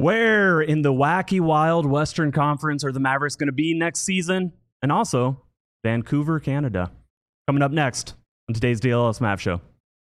Where in the wacky, wild Western Conference are the Mavericks going to be next season? And also, Vancouver, Canada. Coming up next on today's DLS Mav Show.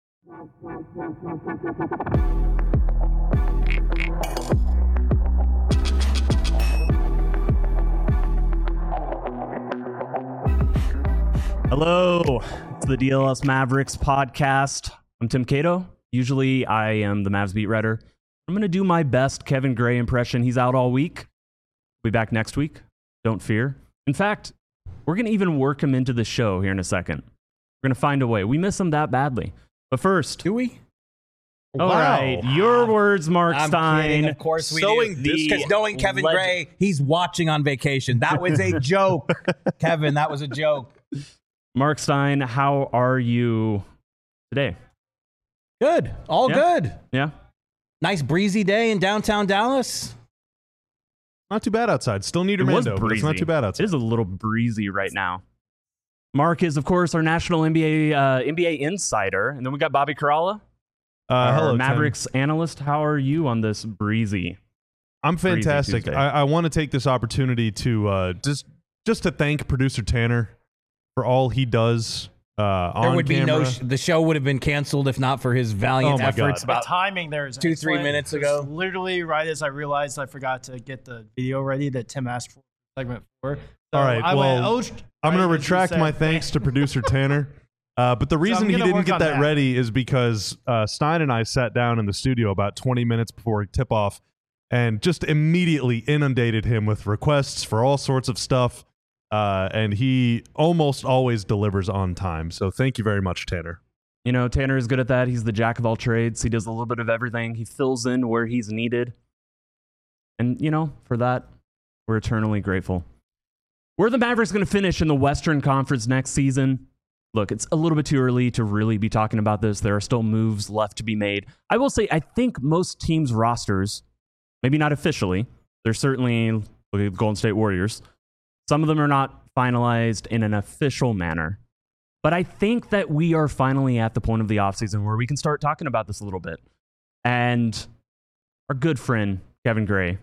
Hello, it's the DLS Mavericks podcast. I'm Tim Cato. Usually I am the Mavs beat writer. I'm going to do my best Kevin Gray impression. He's out all week. We'll be back next week. Don't fear. In fact, we're going to even work him into the show here in a second. We're going to find a way. We miss him that badly. But first... Do we? All right, your words, Mark Stein. Kidding. Of course we do. Because knowing Kevin Gray, he's watching on vacation. That was a joke. Kevin, that was a joke. Mark Stein, how are you today? Good. All good. Yeah. Nice breezy day in downtown Dallas. Not too bad outside. Still need Armando, but it's not too bad outside. It is a little breezy right now. Mark is, of course, our national NBA insider. And then we got Bobby Karalla, hello, Mavericks analyst. How are you on this breezy? I'm fantastic. I want to take this opportunity to just to thank producer Tanner for all he does on camera. The show would have been canceled if not for his valiant efforts. The timing there is 2-3 minutes ago. Literally right as I realized I forgot to get the video ready that Tim asked for segment 4. So all right, I'm going to retract my thanks to producer Tanner. But the reason he didn't get that ready is because Stein and I sat down in the studio about 20 minutes before tip-off and just immediately inundated him with requests for all sorts of stuff. And he almost always delivers on time. So thank you very much, Tanner. You know, Tanner is good at that. He's the jack of all trades. He does a little bit of everything. He fills in where he's needed. And, you know, for that, we're eternally grateful. Where are the Mavericks going to finish in the Western Conference next season? Look, it's a little bit too early to really be talking about this. There are still moves left to be made. I will say, I think most teams' rosters, maybe not officially, they're certainly, look at the Golden State Warriors. Some of them are not finalized in an official manner. But I think that we are finally at the point of the offseason where we can start talking about this a little bit. And our good friend, Kevin Gray,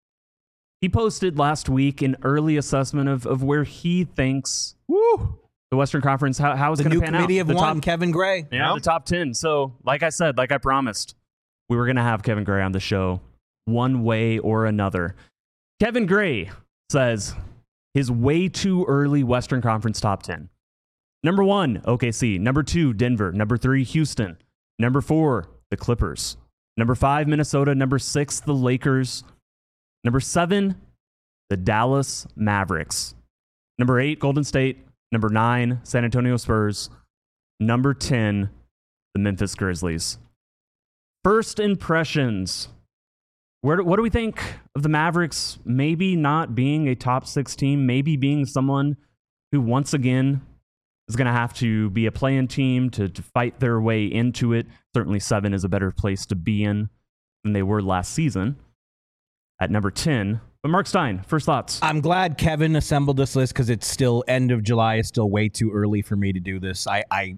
he posted last week an early assessment of where he thinks the Western Conference, how it's going to pan out. The new committee of one, Kevin Gray. Yeah, the top 10. So, like I said, like I promised, we were going to have Kevin Gray on the show one way or another. Kevin Gray says his way too early Western Conference top 10. Number 1, OKC. Number 2, Denver. Number 3, Houston. Number 4, the Clippers. Number 5, Minnesota. Number 6, the Lakers. Number 7, the Dallas Mavericks. Number 8, Golden State. Number 9, San Antonio Spurs. Number 10, the Memphis Grizzlies. First impressions. What do we think of the Mavericks maybe not being a top 6 team, maybe being someone who once again is going to have to be a play-in team to fight their way into it? Certainly 7 is a better place to be in than they were last season at number 10. But Mark Stein, first thoughts. I'm glad Kevin assembled this list because it's still end of July. It's still way too early for me to do this. I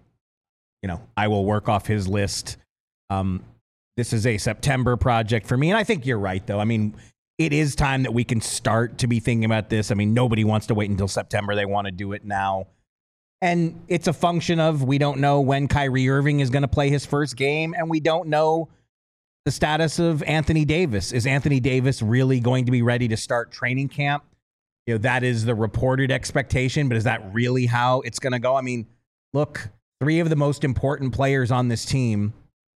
will work off his list. This is a September project for me. And I think you're right, though. I mean, it is time that we can start to be thinking about this. I mean, nobody wants to wait until September. They want to do it now. And it's a function of we don't know when Kyrie Irving is going to play his first game, and we don't know the status of Anthony Davis. Is Anthony Davis really going to be ready to start training camp? You know, that is the reported expectation, but is that really how it's going to go? I mean, look, 3 of the most important players on this team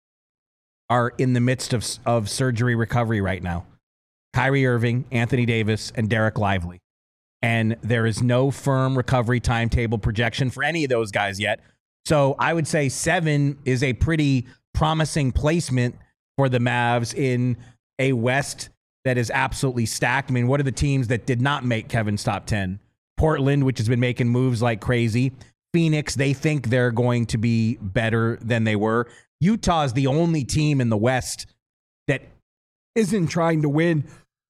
are in the midst of surgery recovery right now. Kyrie Irving, Anthony Davis, and Derek Lively. And there is no firm recovery timetable projection for any of those guys yet. So I would say 7 is a pretty promising placement for the Mavs in a West that is absolutely stacked. I mean, what are the teams that did not make Kevin's top 10? Portland, which has been making moves like crazy. Phoenix, they think they're going to be better than they were. Utah is the only team in the West that isn't trying to win.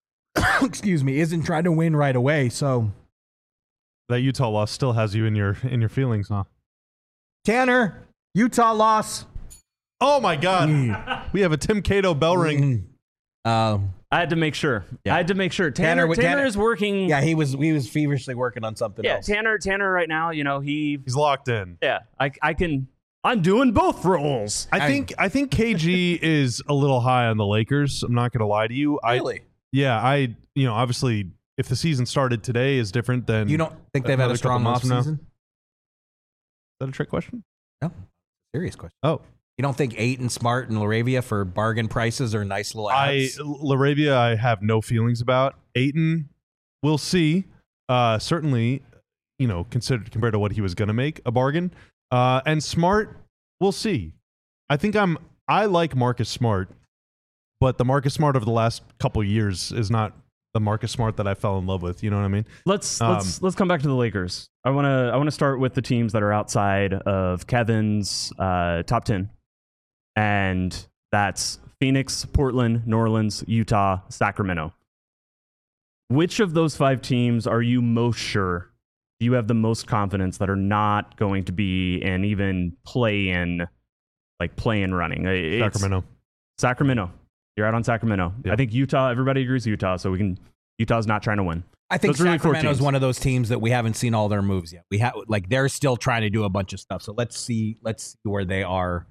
Isn't trying to win right away. So that Utah loss still has you in your feelings, huh? Tanner, Utah loss. Oh my God. We have a Tim Cato bell ring. I had to make sure. Yeah. I had to make sure. Tanner is working. Yeah, he was feverishly working on something else. Tanner right now, he's locked in. Yeah, I'm doing both roles. I think KG is a little high on the Lakers. I'm not going to lie to you. Really? Obviously, if the season started today is different than you don't think they've had a strong offseason? Is that a trick question? No, serious question. Oh. You don't think Ayton, Smart, and LaRavia for bargain prices are nice little ads? LaRavia, I have no feelings about. Ayton, we'll see. Certainly, considered compared to what he was going to make, a bargain. And Smart, we'll see. I like Marcus Smart, but the Marcus Smart of the last couple of years is not the Marcus Smart that I fell in love with. You know what I mean? Let's come back to the Lakers. I want to start with the teams that are outside of Kevin's top 10. And that's Phoenix, Portland, New Orleans, Utah, Sacramento. Which of those 5 teams are you most sure you have the most confidence that are not going to be an even play-in running? Sacramento. You're out on Sacramento. Yep. I think Utah, everybody agrees Utah, so Utah's not trying to win. I think Sacramento is one of those teams that we haven't seen all their moves yet. They're still trying to do a bunch of stuff. So let's see where they are.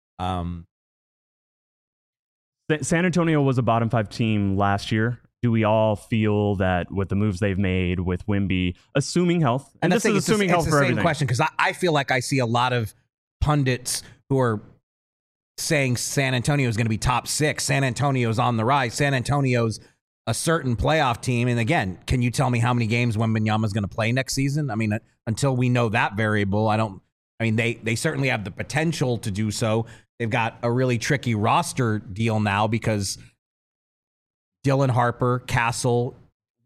San Antonio was a bottom 5 team last year. Do we all feel that with the moves they've made with Wemby, assuming health, and this is assuming health for everything? It's the same question because I feel like I see a lot of pundits who are saying San Antonio is going to be top 6. San Antonio's on the rise. San Antonio's a certain playoff team. And again, can you tell me how many games Wembanyama is going to play next season? I mean, until we know that variable, they certainly have the potential to do so. They've got a really tricky roster deal now because Dylan Harper, Castle.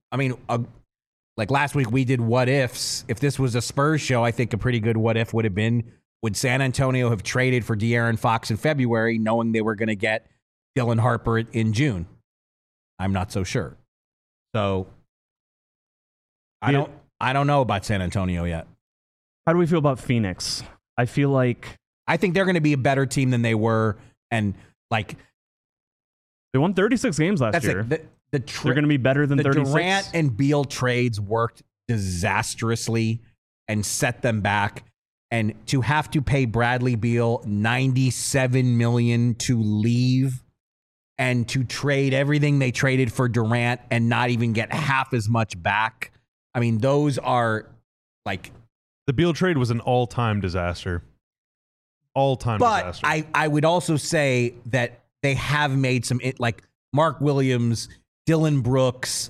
Last week we did what ifs. If this was a Spurs show, I think a pretty good what if would have been, would San Antonio have traded for De'Aaron Fox in February knowing they were going to get Dylan Harper in June? I'm not so sure. So I don't know about San Antonio yet. How do we feel about Phoenix? I think they're going to be a better team than they were, and they won 36 games last year. They're going to be better than 36. The Durant and Beal trades worked disastrously and set them back, and to have to pay Bradley Beal $97 million to leave, and to trade everything they traded for Durant and not even get half as much back. I mean, those are the Beal trade was an all-time disaster. Disaster. But I would also say that they have made some, Mark Williams, Dylan Brooks,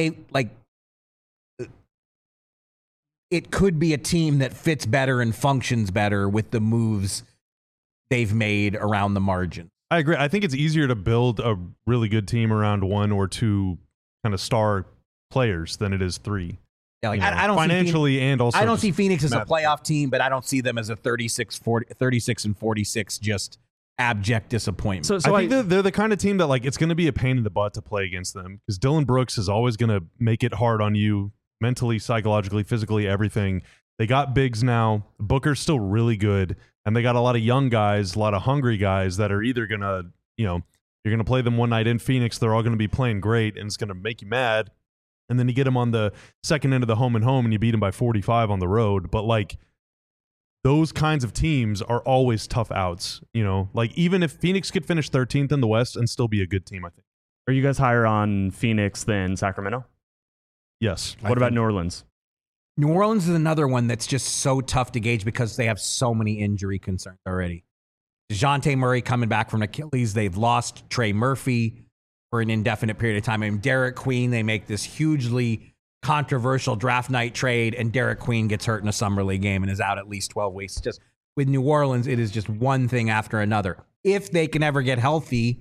it could be a team that fits better and functions better with the moves they've made around the margin. I agree. I think it's easier to build a really good team around 1 or 2 kind of star players than it is 3. Yeah, I don't financially see and also I don't see Phoenix as a playoff team, but I don't see them as a 36 and 46 just abject disappointment. So I think they're the kind of team that it's going to be a pain in the butt to play against them because Dylan Brooks is always going to make it hard on you mentally, psychologically, physically, everything. They got bigs now. Booker's still really good, and they got a lot of young guys, a lot of hungry guys that are either going to, you're going to play them one night in Phoenix. They're all going to be playing great, and it's going to make you mad. And then you get them on the second end of the home and home, and you beat them by 45 on the road. But those kinds of teams are always tough outs. Even if Phoenix could finish 13th in the West and still be a good team, I think. Are you guys higher on Phoenix than Sacramento? Yes. What about New Orleans? New Orleans is another one that's just so tough to gauge because they have so many injury concerns already. DeJounte Murray coming back from Achilles. They've lost Trey Murphy for an indefinite period of time. Derek Queen, they make this hugely controversial draft night trade, and Derek Queen gets hurt in a summer league game and is out at least 12 weeks. Just with New Orleans, it is just one thing after another. If they can ever get healthy,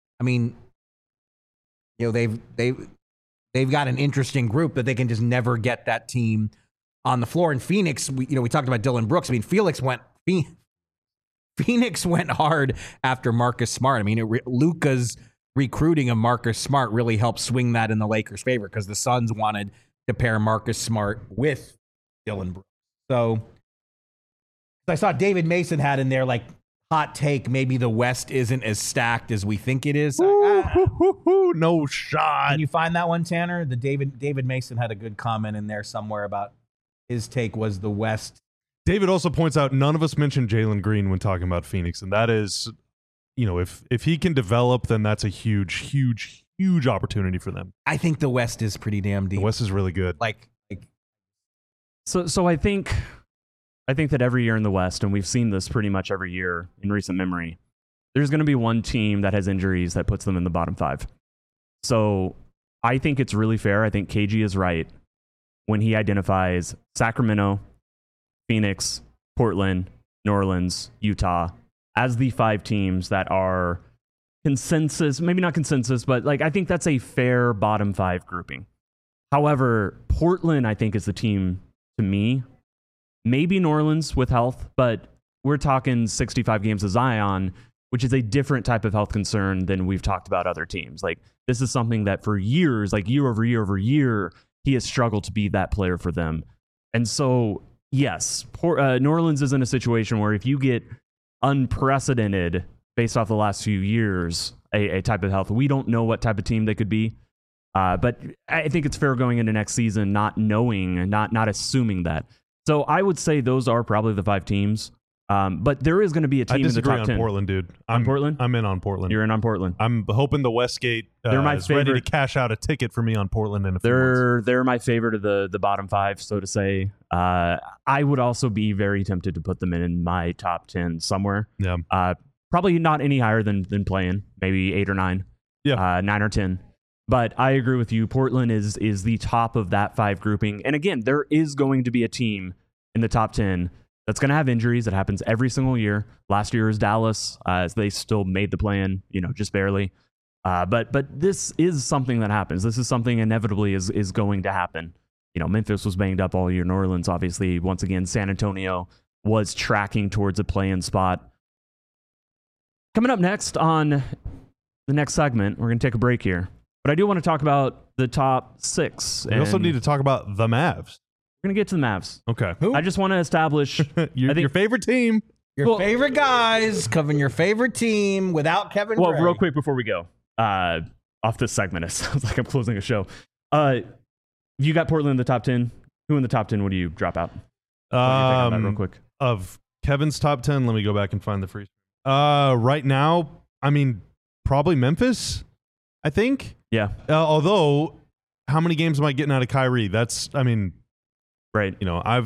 they've got an interesting group, but they can just never get that team on the floor. In Phoenix, we talked about Dylan Brooks. Phoenix went hard after Marcus Smart. Luka's recruiting of Marcus Smart really helped swing that in the Lakers' favor because the Suns wanted to pair Marcus Smart with Dylan Brooks. So I saw David Mason had in there hot take, maybe the West isn't as stacked as we think it is. No shot. Can you find that one, Tanner? The David Mason had a good comment in there somewhere about his take was the West. David also points out none of us mentioned Jalen Green when talking about Phoenix, and that is, if he can develop, then that's a huge opportunity for them. I think the West is pretty damn deep. The West is really good. So I think that every year in the West, and we've seen this pretty much every year in recent memory, there's going to be one team that has injuries that puts them in the bottom 5. So I think it's really fair. I think KG is right when he identifies Sacramento, Phoenix, Portland, New Orleans, Utah as the 5 teams that are consensus, maybe not consensus, but I think that's a fair bottom 5 grouping. However, Portland, I think, is the team to me. Maybe New Orleans with health, but we're talking 65 games of Zion, which is a different type of health concern than we've talked about other teams. This is something that for years, year over year, he has struggled to be that player for them. And so, yes, New Orleans is in a situation where if you get unprecedented based off the last few years, a type of health, we don't know what type of team they could be. But I think it's fair going into next season, not knowing, not assuming that. So I would say those are probably the 5 teams. But there is going to be a team in the top 10. I disagree on Portland, dude. Portland? I'm in on Portland. You're in on Portland. I'm hoping the Westgate is ready to cash out a ticket for me on Portland in a few months. They're my favorite of the bottom 5, so to say. I would also be very tempted to put them in my top 10 somewhere. Yeah. Probably not any higher than playing, maybe 8 or 9. Yeah. 9 or 10. But I agree with you. Portland is the top of that 5 grouping. And again, there is going to be a team in the top 10 that's going to have injuries. It happens every single year. Last year was Dallas. They still made the play-in, just barely. But this is something that happens. This is something inevitably is going to happen. Memphis was banged up all year. New Orleans, obviously, once again, San Antonio was tracking towards a play-in spot. Coming up next on the next segment, we're going to take a break here. But I do want to talk about the top 6. We also need to talk about the Mavs. We're going to get to the Mavs. Okay. I just want to establish your favorite team. Your favorite guys covering your favorite team without Kevin Gray. Real quick before we go off this segment, it sounds like I'm closing a show. You got Portland in the top 10. Who in the top 10 would you drop out? Real quick. Of Kevin's top 10, let me go back and find the free. Right now, probably Memphis, I think. Yeah. Although, how many games am I getting out of Kyrie? That's, right.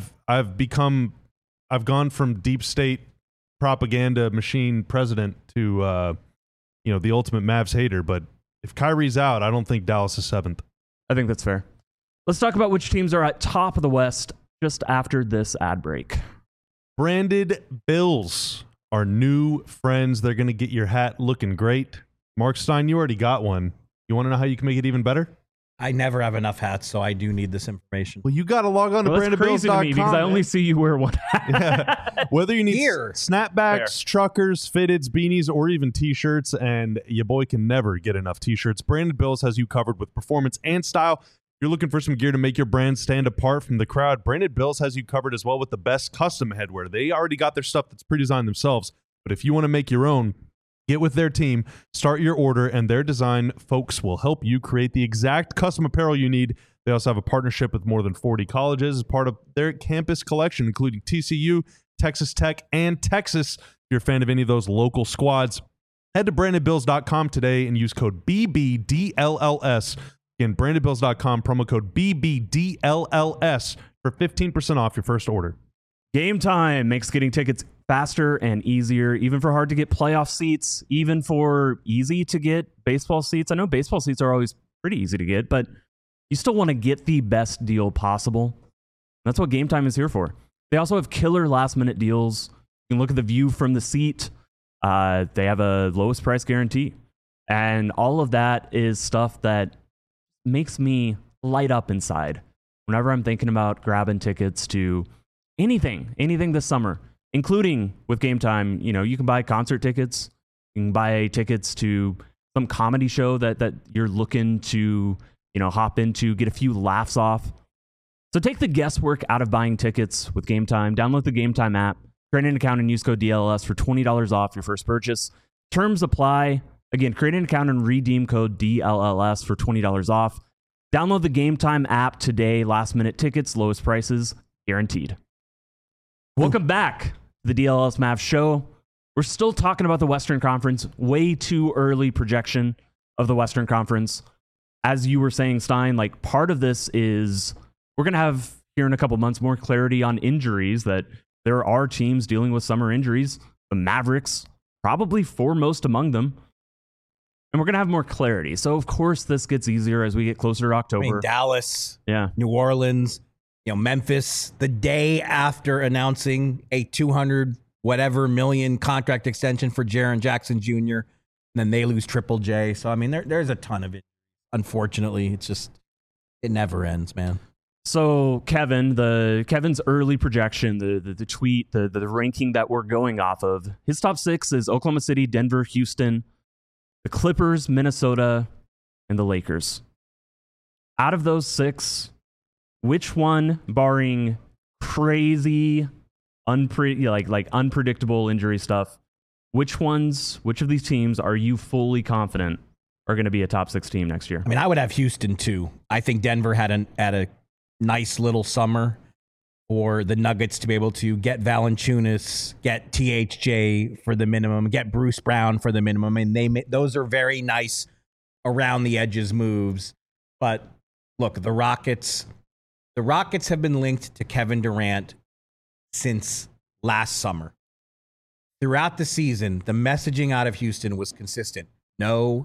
I've gone from deep state propaganda machine president to, the ultimate Mavs hater. But if Kyrie's out, I don't think Dallas is 7th. I think that's fair. Let's talk about which teams are at top of the West just after this ad break. Branded Bills, our new friends. They're going to get your hat looking great. Mark Stein, you already got one. You want to know how you can make it even better? I never have enough hats, so I do need this information. Well, you got to log on to brandedbills.com. Because I only see you wear one hat. Yeah. Whether you need Here. snapbacks, truckers, fitteds, beanies, or even T-shirts, and your boy can never get enough T-shirts, Branded Bills has you covered with performance and style. If you're looking for some gear to make your brand stand apart from the crowd, Branded Bills has you covered as well with the best custom headwear. They already got their stuff that's pre-designed themselves, but if you want to make your own, get with their team, start your order, and their design folks will help you create the exact custom apparel you need. They also have a partnership with more than 40 colleges as part of their campus collection, including TCU, Texas Tech, and Texas. If you're a fan of any of those local squads, head to brandedbills.com today and use code BBDLLS. Again, brandedbills.com, promo code BBDLLS for 15% off your first order. Game Time makes getting tickets faster and easier, even for hard to get playoff seats, even for easy to get baseball seats. I know baseball seats are always pretty easy to get, but you still want to get the best deal possible. That's what Game Time is here for. They also have killer last minute deals. You can look at the view from the seat. They have a lowest price guarantee. And all of that is stuff that makes me light up inside whenever I'm thinking about grabbing tickets to anything this summer, including with Game Time. You can buy concert tickets, you can buy tickets to some comedy show that you're looking to, hop into, get a few laughs off. So take the guesswork out of buying tickets with Game Time. Download the Game Time app, Create an account and use code DLS for $20 off your first purchase. Terms apply. Again, create an account and redeem code DLLS for $20 off. Download the Game Time app today. Last minute tickets, lowest prices, guaranteed. Welcome back to the DLS Mavs show. We're still talking about the Western Conference. Way too early projection of the Western Conference. As you were saying, Stein, like part of this is we're going to have here in a couple months more clarity on injuries, that there are teams dealing with summer injuries. The Mavericks, probably foremost among them. And we're going to have more clarity. So, of course, this gets easier as we get closer to October. I mean, Dallas, yeah, New Orleans, Memphis, the day after announcing a 200 whatever million contract extension for Jaren Jackson Jr., and then they lose Triple J. So, I mean, there's a ton of it. Unfortunately, it never ends, man. So, Kevin's early projection, the tweet, the ranking that we're going off of, his top 6 is Oklahoma City, Denver, Houston, the Clippers, Minnesota, and the Lakers. Out of those 6, which one, barring crazy, unpredictable injury stuff, which of these teams are you fully confident are going to be a top 6 team next year? I mean, I would have Houston too. I think Denver had a nice little summer for the Nuggets to be able to get Valanciunas, get THJ for the minimum, get Bruce Brown for the minimum. And those are very nice around the edges moves. But look, the Rockets have been linked to Kevin Durant since last summer. Throughout the season, the messaging out of Houston was consistent. No.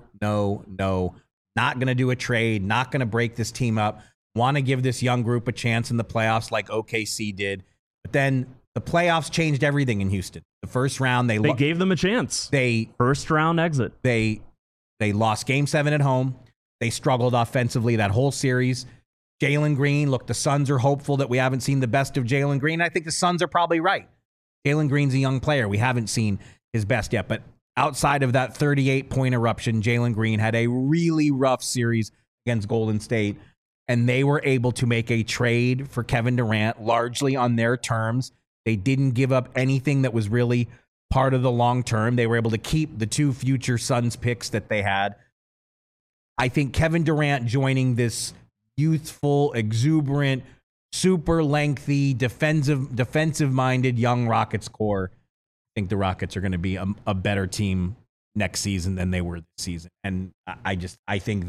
Not going to do a trade, not going to break this team up. Want to give this young group a chance in the playoffs like OKC did. But then the playoffs changed everything in Houston. The first round, they gave them a chance. First round exit. They lost Game 7 at home. They struggled offensively that whole series. Jalen Green, look, the Suns are hopeful that we haven't seen the best of Jalen Green. I think the Suns are probably right. Jalen Green's a young player. We haven't seen his best yet. But outside of that 38-point eruption, Jalen Green had a really rough series against Golden State. And they were able to make a trade for Kevin Durant largely on their terms. They didn't give up anything that was really part of the long term. They were able to keep the 2 future Suns picks that they had. I think Kevin Durant joining this youthful, exuberant, super lengthy, defensive-minded young Rockets core. I think the Rockets are going to be a better team next season than they were this season. And I think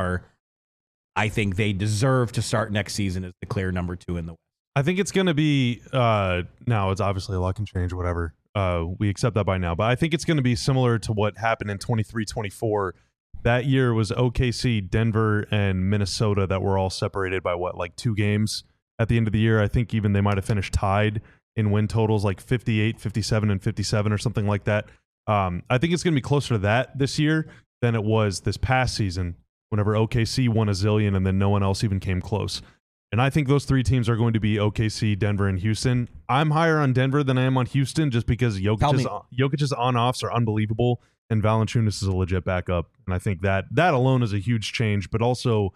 they deserve to start next season as the clear number 2 in the West. I think it's going to be, now it's obviously a lot can change, whatever. We accept that by now. But I think it's going to be similar to what happened in 23-24. That year was OKC, Denver, and Minnesota that were all separated by 2 games at the end of the year. I think even they might have finished tied in win totals, like 58, 57, and 57 or something like that. I think it's going to be closer to that this year than it was this past season, whenever OKC won a zillion and then no one else even came close. And I think those 3 teams are going to be OKC, Denver, and Houston. I'm higher on Denver than I am on Houston just because Jokic's on-offs are unbelievable and Valanciunas is a legit backup. And I think that alone is a huge change. But also,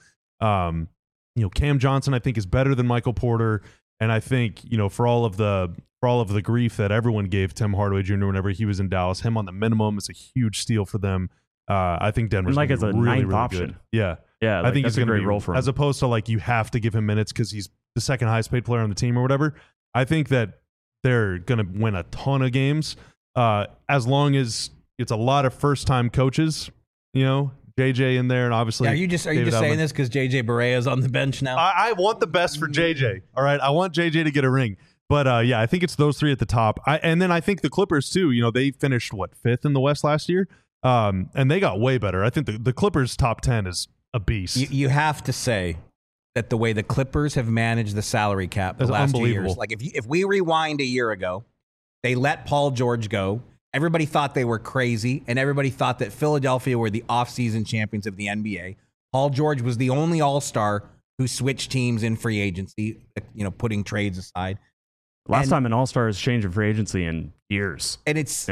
Cam Johnson, I think, is better than Michael Porter. And I think, for all of the grief that everyone gave Tim Hardaway Jr. whenever he was in Dallas, him on the minimum is a huge steal for them. I think Denver's as a really, ninth really option. Good. Yeah, I think he's going to be a great role for him. As opposed to you have to give him minutes because he's the second highest paid player on the team or whatever. I think that they're going to win a ton of games as long as it's a lot of first time coaches. JJ in there, and obviously. Are you just saying this because JJ Barea is on the bench now? I want the best for JJ. All right, I want JJ to get a ring. But I think it's those 3 at the top. And then I think the Clippers too. They finished 5th in the West last year. And they got way better. I think the Clippers' top 10 is a beast. You have to say that the way the Clippers have managed the salary cap the last 2 years, if we rewind a year ago, they let Paul George go. Everybody thought they were crazy, and everybody thought that Philadelphia were the offseason champions of the NBA. Paul George was the only all-star who switched teams in free agency, putting trades aside. Last time an all-star has changed in free agency in years. And it's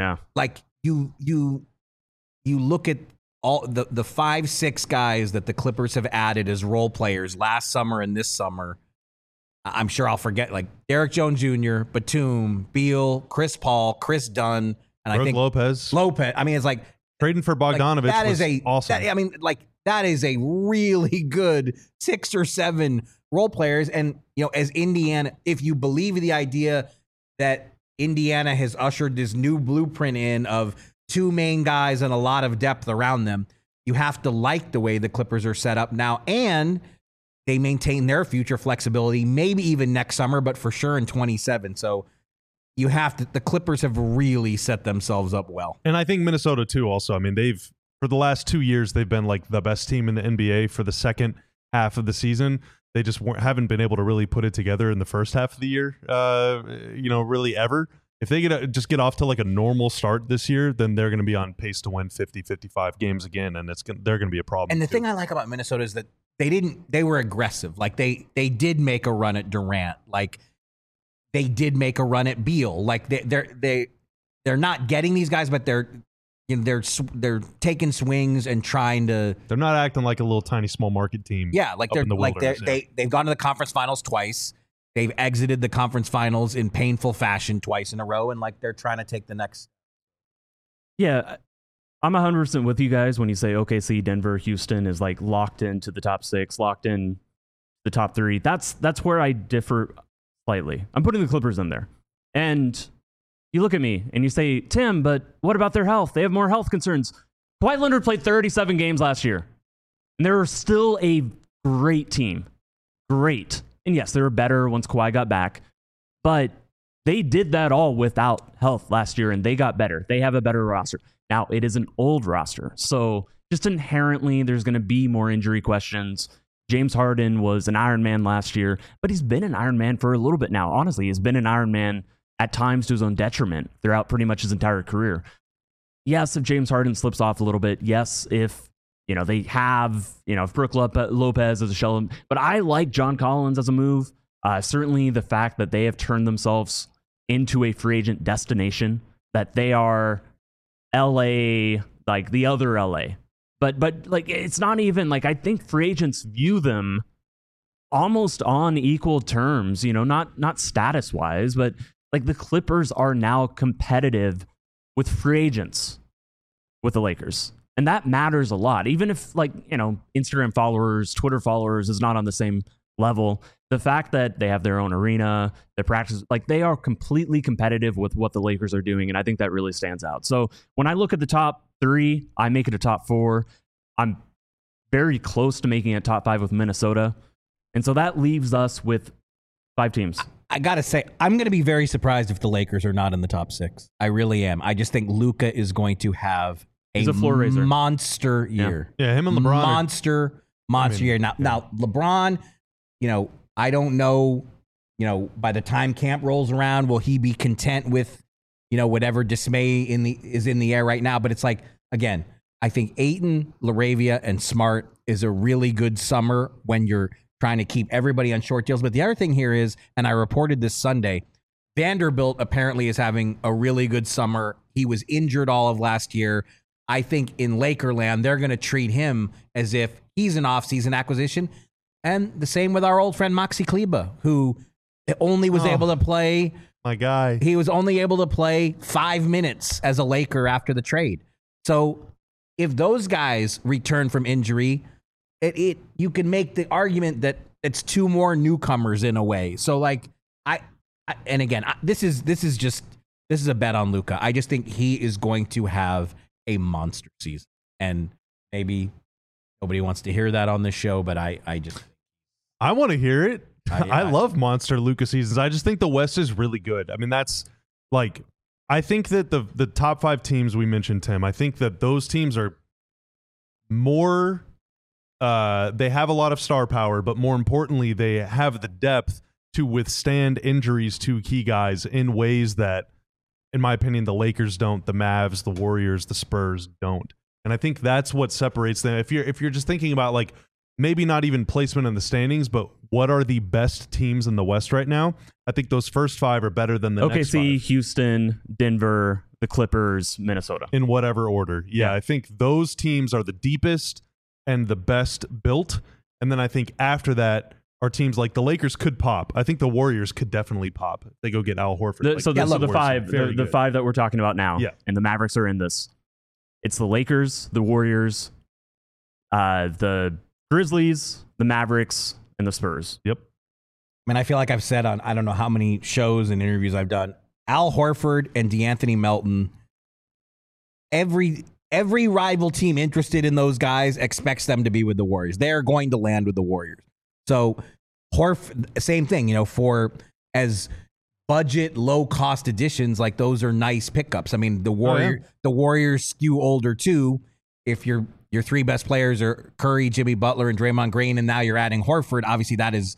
you look at all the 5-6 guys that the Clippers have added as role players last summer and this summer. I'm sure I'll forget like Derek Jones Jr., Batum, Beal, Chris Paul, Chris Dunn, and I think Lopez. I mean, it's like trading for Bogdanovich that was is awesome. That is a really good 6 or 7 role players. And, as Indiana, if you believe the idea that Indiana has ushered this new blueprint in of 2 main guys and a lot of depth around them, you have to like the way the Clippers are set up now. And they maintain their future flexibility, maybe even next summer, but for sure in 27. So the Clippers have really set themselves up well. And I think Minnesota too also. I mean, for the last 2 years, they've been like the best team in the NBA for the second half of the season. They just haven't been able to really put it together in the first half of the year, really ever. If they get off to like a normal start this year, then they're going to be on pace to win 50, 55 games again, and they're going to be a problem. And the thing I like about Minnesota is that they were aggressive. Like they did make a run at Durant. Like they did make a run at Beal. Like they're not getting these guys, but they're taking swings and trying to. They're not acting like a little tiny small market team. Yeah, they've gone to the conference finals twice. They've exited the conference finals in painful fashion twice in a row, and like they're trying to take the next. Yeah, I'm 100% with you guys when you say OKC, Denver, Houston is like locked into the top 6, locked in the top 3. That's where I differ slightly. I'm putting the Clippers in there, and you look at me and you say, Tim, but what about their health? They have more health concerns. Kawhi Leonard played 37 games last year, and they were still a great team. Great. And yes, they were better once Kawhi got back, but they did that all without health last year, and they got better. They have a better roster. Now, it is an old roster, so just inherently there's going to be more injury questions. James Harden was an Iron Man last year, but he's been an Iron Man for a little bit now. Honestly, he's been an Iron Man at times to his own detriment throughout pretty much his entire career. Yes, if James Harden slips off a little bit, yes, if they have, if Brook Lopez as a shell. But I like John Collins as a move. Certainly the fact that they have turned themselves into a free agent destination, that they are LA, like the other LA. But like, it's not even like, I think free agents view them almost on equal terms, not status wise, but like the Clippers are now competitive with free agents with the Lakers. And that matters a lot. Even if Instagram followers, Twitter followers is not on the same level, the fact that they have their own arena, their practice, like they are completely competitive with what the Lakers are doing. And I think that really stands out. So when I look at the top 3, I make it a top 4. I'm very close to making a top 5 with Minnesota. And so that leaves us with 5 teams. I got to say, I'm going to be very surprised if the Lakers are not in the top 6. I really am. I just think Luka is going to have He's a floor raiser. Monster year. Yeah, him and LeBron. Monster year. Now LeBron, I don't know, by the time camp rolls around, will he be content with, whatever dismay is in the air right now? But it's like, again, I think Ayton, LaRavia, and Smart is a really good summer when you're trying to keep everybody on short deals. But the other thing here is, and I reported this Sunday, Vanderbilt apparently is having a really good summer. He was injured all of last year. I think in Lakerland, they're going to treat him as if he's an offseason acquisition. And the same with our old friend Maxi Kleber, who only was able to play. My guy. He was only able to play 5 minutes as a Laker after the trade. So if those guys return from injury, you can make the argument that it's 2 more newcomers in a way. So like this is a bet on Luka. I just think he is going to have a monster season, and maybe nobody wants to hear that on this show, but I want to hear it. I love monster Luka seasons. I just think the West is really good. I mean, that's like, I think that the top 5 teams we mentioned, Tim, I think that those teams are more, they have a lot of star power, but more importantly, they have the depth to withstand injuries to key guys in ways that, in my opinion, the Lakers don't, the Mavs, the Warriors, the Spurs don't. And I think that's what separates them. If you're just thinking about like maybe not even placement in the standings, but what are the best teams in the West right now, I think those first 5 are better than the next 5. OKC, Houston, Denver, the Clippers, Minnesota. In whatever order. Yeah, I think those teams are the deepest and the best built. And then I think after that are teams like the Lakers could pop. I think the Warriors could definitely pop. They go get Al Horford. The five that we're talking about now, yeah. And the Mavericks are in this. It's the Lakers, the Warriors, the Grizzlies, the Mavericks, and the Spurs. Yep. I mean, I feel like I've said on I don't know how many shows and interviews I've done, Al Horford and DeAnthony Melton, every rival team interested in those guys expects them to be with the Warriors. They're going to land with the Warriors. So same thing, for as budget, low cost additions, like those are nice pickups. I mean, the Warriors skew older too. If your three best players are Curry, Jimmy Butler, and Draymond Green, and now you're adding Horford, obviously that is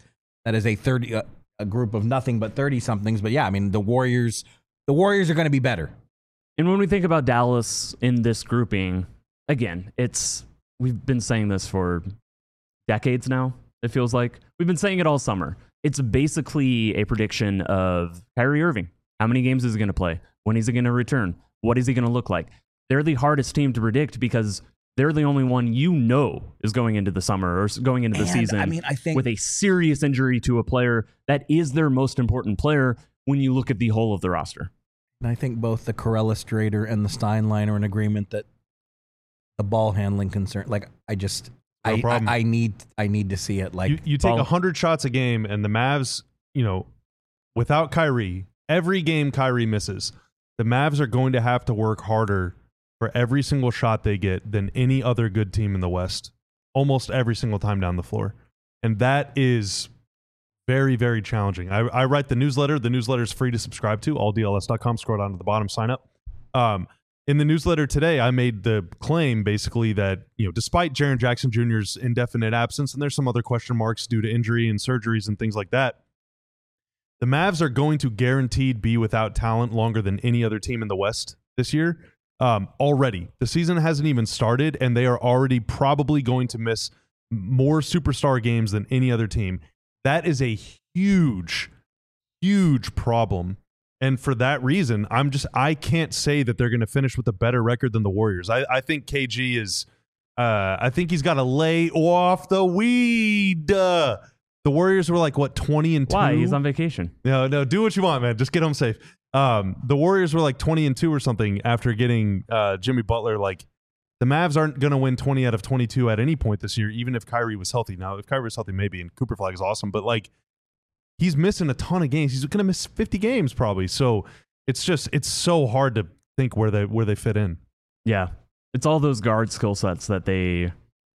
a group of nothing but 30 somethings. But yeah, I mean, the Warriors are going to be better. And when we think about Dallas in this grouping, again, we've been saying this for decades now. It feels like we've been saying it all summer. It's basically a prediction of Kyrie Irving. How many games is he going to play? When is he going to return? What is he going to look like? They're the hardest team to predict because they're the only one is going into the summer or going into the season I think with a serious injury to a player that is their most important player when you look at the whole of the roster. And I think both the Corella-Strader and the Steinlein are in agreement that the ball handling concern, like I need to see it. Like you take 100 shots a game, and the Mavs, without Kyrie, every game Kyrie misses, the Mavs are going to have to work harder for every single shot they get than any other good team in the West, almost every single time down the floor. And that is very, very challenging. I write the newsletter. The newsletter is free to subscribe to, alldls.com. Scroll down to the bottom, sign up. In the newsletter today, I made the claim basically that, despite Jaren Jackson Jr.'s indefinite absence, and there's some other question marks due to injury and surgeries and things like that, the Mavs are going to guaranteed be without talent longer than any other team in the West this year. Already. The season hasn't even started, and they are already probably going to miss more superstar games than any other team. That is a huge, huge problem. And for that reason, I can't say that they're going to finish with a better record than the Warriors. I think KG is, I think he's got to lay off the weed. The Warriors were like, 20-2? Why? He's on vacation. No, do what you want, man. Just get home safe. The Warriors were like 20-2 or something after getting Jimmy Butler. Like, the Mavs aren't going to win 20 out of 22 at any point this year, even if Kyrie was healthy. Now, if Kyrie was healthy, maybe, and Cooper Flag is awesome, but he's missing a ton of games. He's going to miss 50 games probably. So it's so hard to think where they fit in. Yeah. It's all those guard skill sets that they,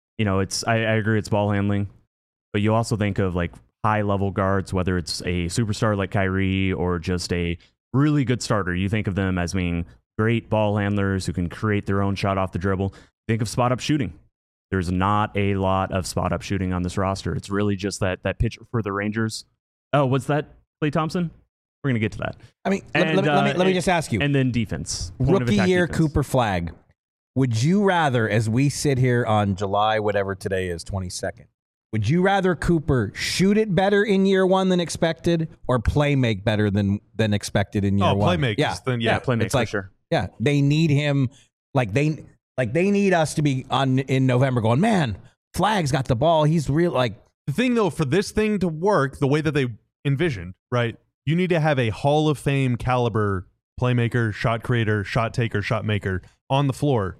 I agree it's ball handling, but you also think of high level guards, whether it's a superstar like Kyrie or just a really good starter. You think of them as being great ball handlers who can create their own shot off the dribble. Think of spot up shooting. There's not a lot of spot up shooting on this roster. It's really just that pitch for the Rangers. Oh, what's that, Klay Thompson? We're going to get to that. I mean, let me just ask you. And then defense. Rookie year defense. Cooper Flag. Would you rather, as we sit here on July, whatever today is, 22nd, would you rather Cooper shoot it better in year one than expected or play make better than expected in year one? Play make. Yeah. Play make for sure. Yeah. They need him. They need us to be in November going, man, Flag's got the ball. He's real. The thing, though, for this thing to work the way that they envisioned, right, you need to have a Hall of Fame caliber playmaker, shot creator, shot taker, shot maker on the floor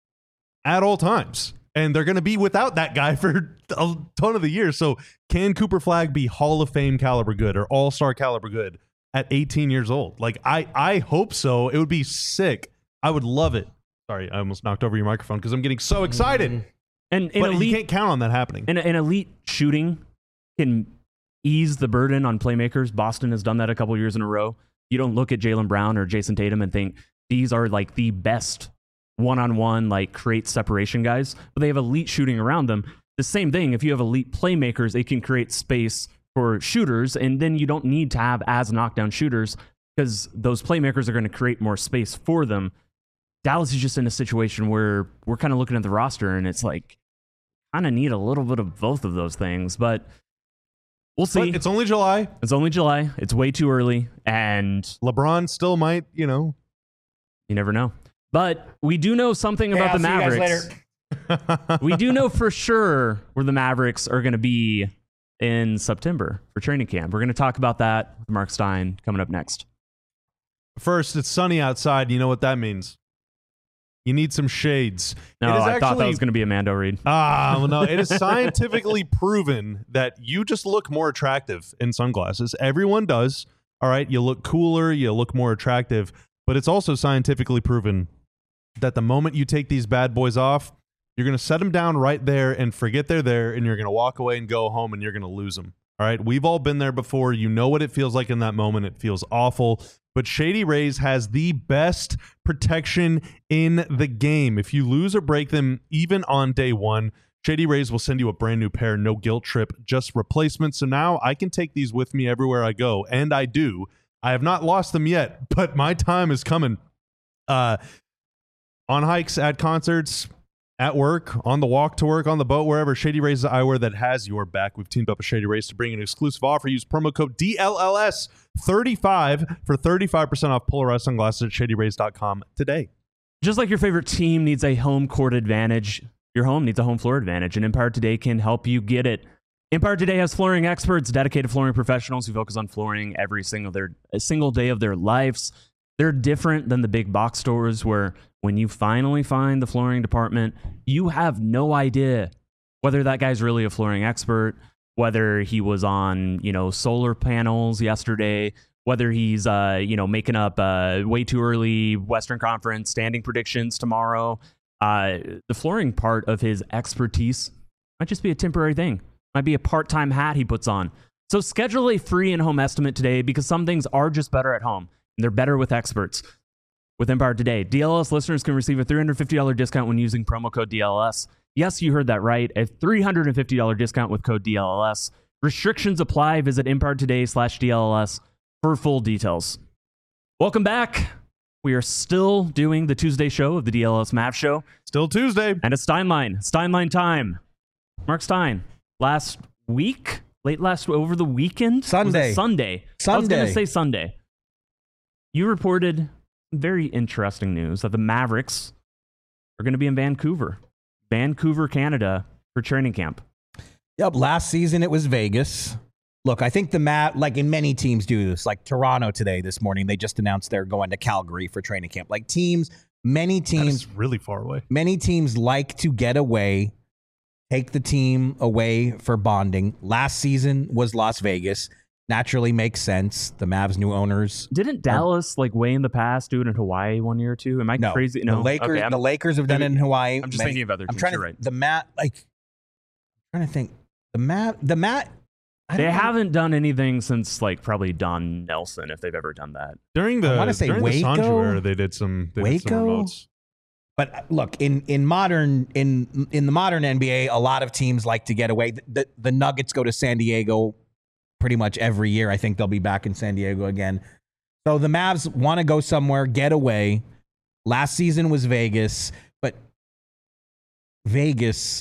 at all times. And they're going to be without that guy for a ton of the year. So can Cooper Flag be Hall of Fame caliber good or all-star caliber good at 18 years old? I hope so. It would be sick. I would love it. Sorry, I almost knocked over your microphone because I'm getting so excited. But you can't count on that happening. And elite shooting can ease the burden on playmakers. Boston has done that a couple years in a row. You don't look at Jaylen Brown or Jason Tatum and think these are the best one-on-one, create separation guys, but they have elite shooting around them. The same thing, if you have elite playmakers, it can create space for shooters, and then you don't need to have as knockdown shooters because those playmakers are going to create more space for them. Dallas is just in a situation where we're kind of looking at the roster and it's kind of need a little bit of both of those things, but we'll see. But it's only July. It's way too early, and LeBron still might, You never know. But we do know something about the Mavericks. See you guys later. We do know for sure where the Mavericks are going to be in September for training camp. We're going to talk about that with Mark Stein coming up next. First, it's sunny outside. You know what that means. You need some shades. No, I thought that was going to be a Mando read. Well, no. It is scientifically proven that you just look more attractive in sunglasses. Everyone does. All right. You look cooler. You look more attractive. But it's also scientifically proven that the moment you take these bad boys off, you're going to set them down right there and forget they're there, and you're going to walk away and go home, and you're going to lose them. All right. We've all been there before. You know what it feels like in that moment. It feels awful. But Shady Rays has the best protection in the game. If you lose or break them, even on day one, Shady Rays will send you a brand new pair, no guilt trip, just replacement. So now I can take these with me everywhere I go, and I do. I have not lost them yet, but my time is coming. On hikes, at concerts, at work, on the walk to work, on the boat, wherever, Shady Rays is the eyewear that has your back. We've teamed up with Shady Rays to bring an exclusive offer. Use promo code DLLS35 for 35% off Polarized sunglasses at shadyrays.com today. Just like your favorite team needs a home court advantage, your home needs a home floor advantage, and Empire Today can help you get it. Empire Today has flooring experts, dedicated flooring professionals who focus on flooring every single day of their lives. They're different than the big box stores where when you finally find the flooring department, you have no idea whether that guy's really a flooring expert, whether he was on, solar panels yesterday, whether he's, making up way too early Western Conference standing predictions tomorrow. The flooring part of his expertise might just be a temporary thing. Might be a part-time hat he puts on. So schedule a free in-home estimate today because some things are just better at home. And they're better with experts. With Empire Today, DLS listeners can receive a $350 discount when using promo code DLS. Yes, you heard that right. A $350 discount with code DLS. Restrictions apply. Visit EmpireToday/DLS for full details. Welcome back. We are still doing the Tuesday show of the DLS Mavs Show. Still Tuesday. And it's Steinline time. Mark Stein, last week? Over the weekend? Sunday. Sunday. I was going to say Sunday. You reported very interesting news that the Mavericks are going to be in Vancouver, Canada for training camp. Yep. Last season it was Vegas. Look, I think in many teams do this. Like Toronto today, this morning, they just announced they're going to Calgary for training camp. Many teams really far away. Many teams like to get away, take the team away for bonding. Last season was Las Vegas. Naturally makes sense. The Mavs' new owners. Didn't Dallas way in the past do it in Hawaii 1 year or two? Am I crazy? No. The Lakers have done it in Hawaii. I'm just thinking of other teams. You're right. I'm trying to think. They haven't done anything since probably Don Nelson, if they've ever done that. During the Sanju era, they did some remotes. But look, in the modern NBA, a lot of teams like to get away. The Nuggets go to San Diego pretty much every year. I think they'll be back in San Diego again. So the Mavs want to go somewhere, get away. Last season was Vegas, but Vegas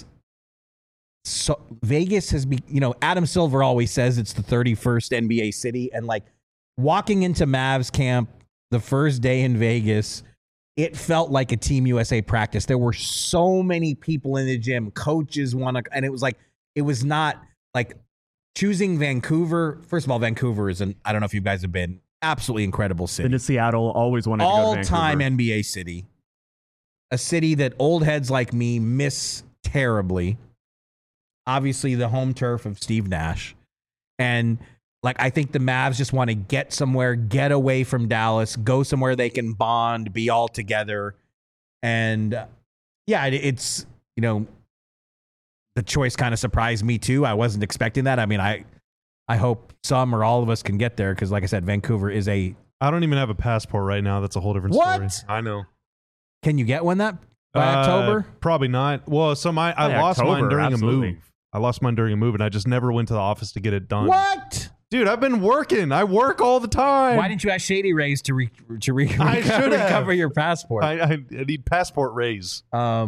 has been, Adam Silver always says it's the 31st NBA city. And walking into Mavs camp the first day in Vegas, it felt like a Team USA practice. There were so many people in the gym, coaches and it was not choosing Vancouver. First of all, Vancouver is I don't know if you guys have been, absolutely incredible city. Been to Seattle, always wanted to go to Vancouver. All-time NBA city. A city that old heads like me miss terribly. Obviously, the home turf of Steve Nash. And I think the Mavs just want to get somewhere, get away from Dallas, go somewhere they can bond, be all together. And it's, the choice kind of surprised me too. I wasn't expecting that. I mean, I hope some or all of us can get there because, like I said, Vancouver is I don't even have a passport right now. That's a whole different story. I know. Can you get one by October? Probably not. Well, I lost mine during a move. I lost mine during a move, and I just never went to the office to get it done. What? Dude, I've been working. I work all the time. Why didn't you ask Shady Rays to recover your passport? I need passport raise.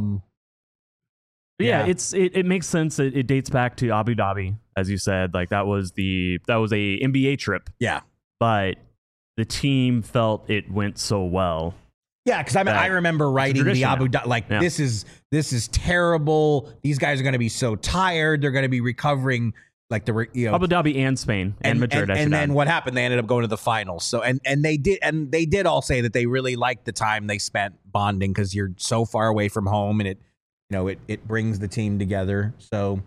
Yeah, it makes sense. It dates back to Abu Dhabi, as you said. That was a NBA trip. Yeah, but the team felt it went so well. Yeah, because I remember writing the Abu Dhabi this is terrible. These guys are going to be so tired. They're going to be recovering like the Abu Dhabi and Spain and Madrid. And then what happened? They ended up going to the finals. So and they did all say that they really liked the time they spent bonding because you're so far away from home and it brings the team together. So,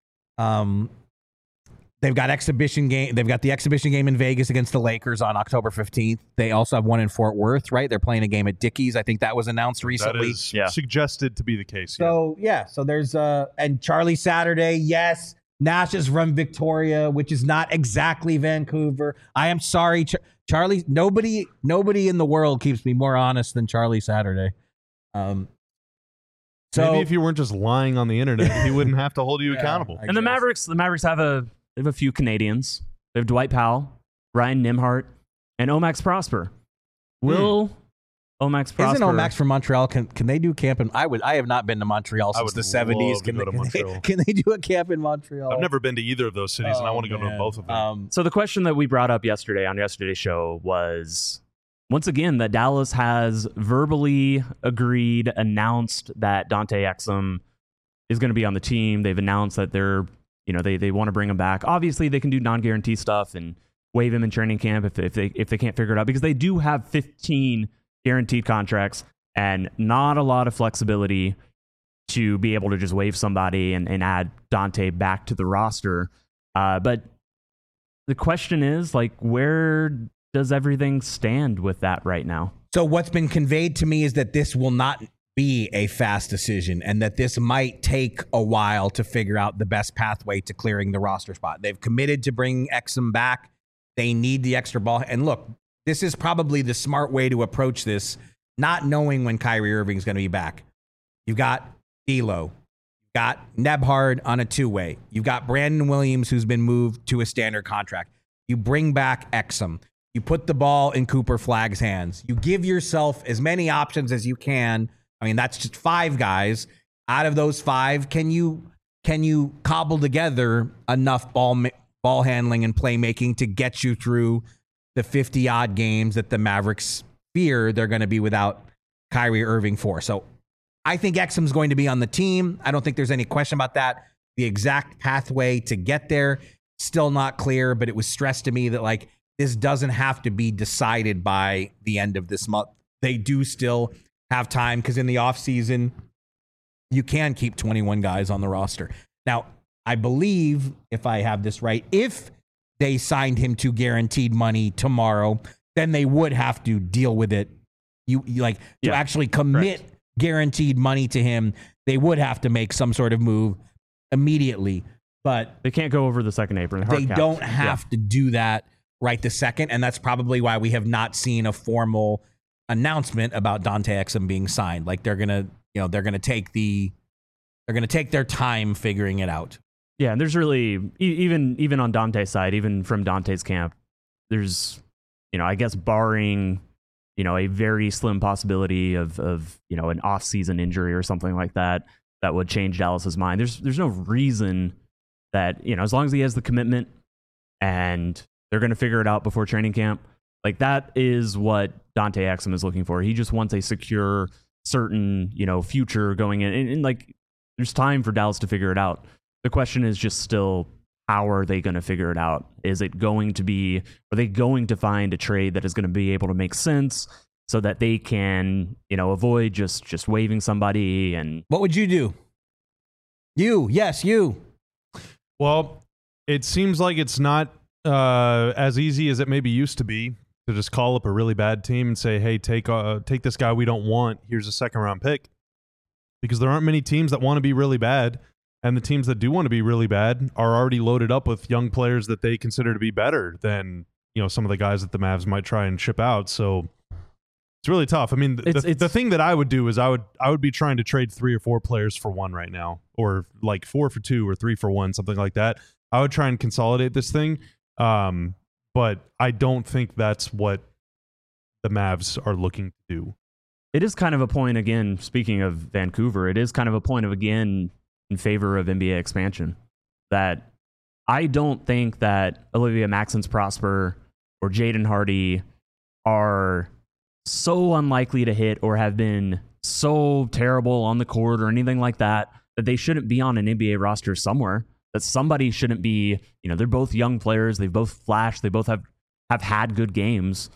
they've got exhibition game. They've got the exhibition game in Vegas against the Lakers on October 15th. They also have one in Fort Worth, right? They're playing a game at Dickies. I think that was announced recently. That is suggested to be the case. So so there's and Charlie Saturday, yes. Nash is from Victoria, which is not exactly Vancouver. I am sorry, Charlie. Nobody in the world keeps me more honest than Charlie Saturday. So maybe if you weren't just lying on the internet, he wouldn't have to hold you accountable. And the Mavericks have a few Canadians. They have Dwight Powell, Ryan Nimhart, and Omax Prosper. Will Omax Prosper? Isn't Omax from Montreal? Can they do camp in? I have not been to Montreal since the 70s. Can they do a camp in Montreal? I've never been to either of those cities, and I want to go to both of them. So the question that we brought up yesterday on yesterday's show was, once again, that Dallas has verbally announced that Dante Exum is going to be on the team. They've announced that they want to bring him back. Obviously, they can do non-guarantee stuff and waive him in training camp if they can't figure it out, because they do have 15 guaranteed contracts and not a lot of flexibility to be able to just waive somebody and add Dante back to the roster. But the question is, like, where does everything stand with that right now? So what's been conveyed to me is that this will not be a fast decision and that this might take a while to figure out the best pathway to clearing the roster spot. They've committed to bringing Exum back. They need the extra ball. And look, this is probably the smart way to approach this, not knowing when Kyrie Irving is going to be back. You've got D'Lo. You've got Nebhard on a two-way. You've got Brandon Williams, who's been moved to a standard contract. You bring back Exum. You put the ball in Cooper Flagg's hands. You give yourself as many options as you can. I mean, that's just 5 guys. Out of those 5, can you cobble together enough ball handling and playmaking to get you through the 50-odd games that the Mavericks fear they're going to be without Kyrie Irving for? So I think Exum's going to be on the team. I don't think there's any question about that. The exact pathway to get there, still not clear, but it was stressed to me that, like, this doesn't have to be decided by the end of this month. They do still have time, because in the offseason, you can keep 21 guys on the roster. Now, I believe, if I have this right, if they signed him to guaranteed money tomorrow, then they would have to deal with it. To actually commit guaranteed money to him, they would have to make some sort of move immediately. But they can't go over the second apron. They don't have to do that right this second, and that's probably why we have not seen a formal announcement about Dante Exum being signed. Like, they're gonna take their time figuring it out. Yeah, and there's really even on Dante's side, even from Dante's camp, there's, I guess, barring, a very slim possibility of an off-season injury or something like that would change Dallas's mind. There's no reason that, as long as he has the commitment and they're going to figure it out before training camp, like, that is what Dante Exum is looking for. He just wants a secure, certain, future going in. And like, there's time for Dallas to figure it out. The question is just still, how are they going to figure it out? Are they going to find a trade that is going to be able to make sense so that they can, avoid just waiving somebody? And what would you do? You. Well, it seems like it's not as easy as it maybe used to be to just call up a really bad team and say, hey, take this guy we don't want. Here's a second-round pick. Because there aren't many teams that want to be really bad. And the teams that do want to be really bad are already loaded up with young players that they consider to be better than, some of the guys that the Mavs might try and ship out. So it's really tough. I mean, the thing that I would do is I would be trying to trade 3 or 4 players for one right now, or like 4 for 2 or 3 for 1, something like that. I would try and consolidate this thing. But I don't think that's what the Mavs are looking to do. It is kind of a point, again, speaking of Vancouver, it is kind of a point of, again, in favor of NBA expansion, that I don't think that Olivia Maxence Prosper or Jaden Hardy are so unlikely to hit or have been so terrible on the court or anything like that they shouldn't be on an NBA roster somewhere. that somebody shouldn't be, they're both young players. They've both flashed. They both have had good games.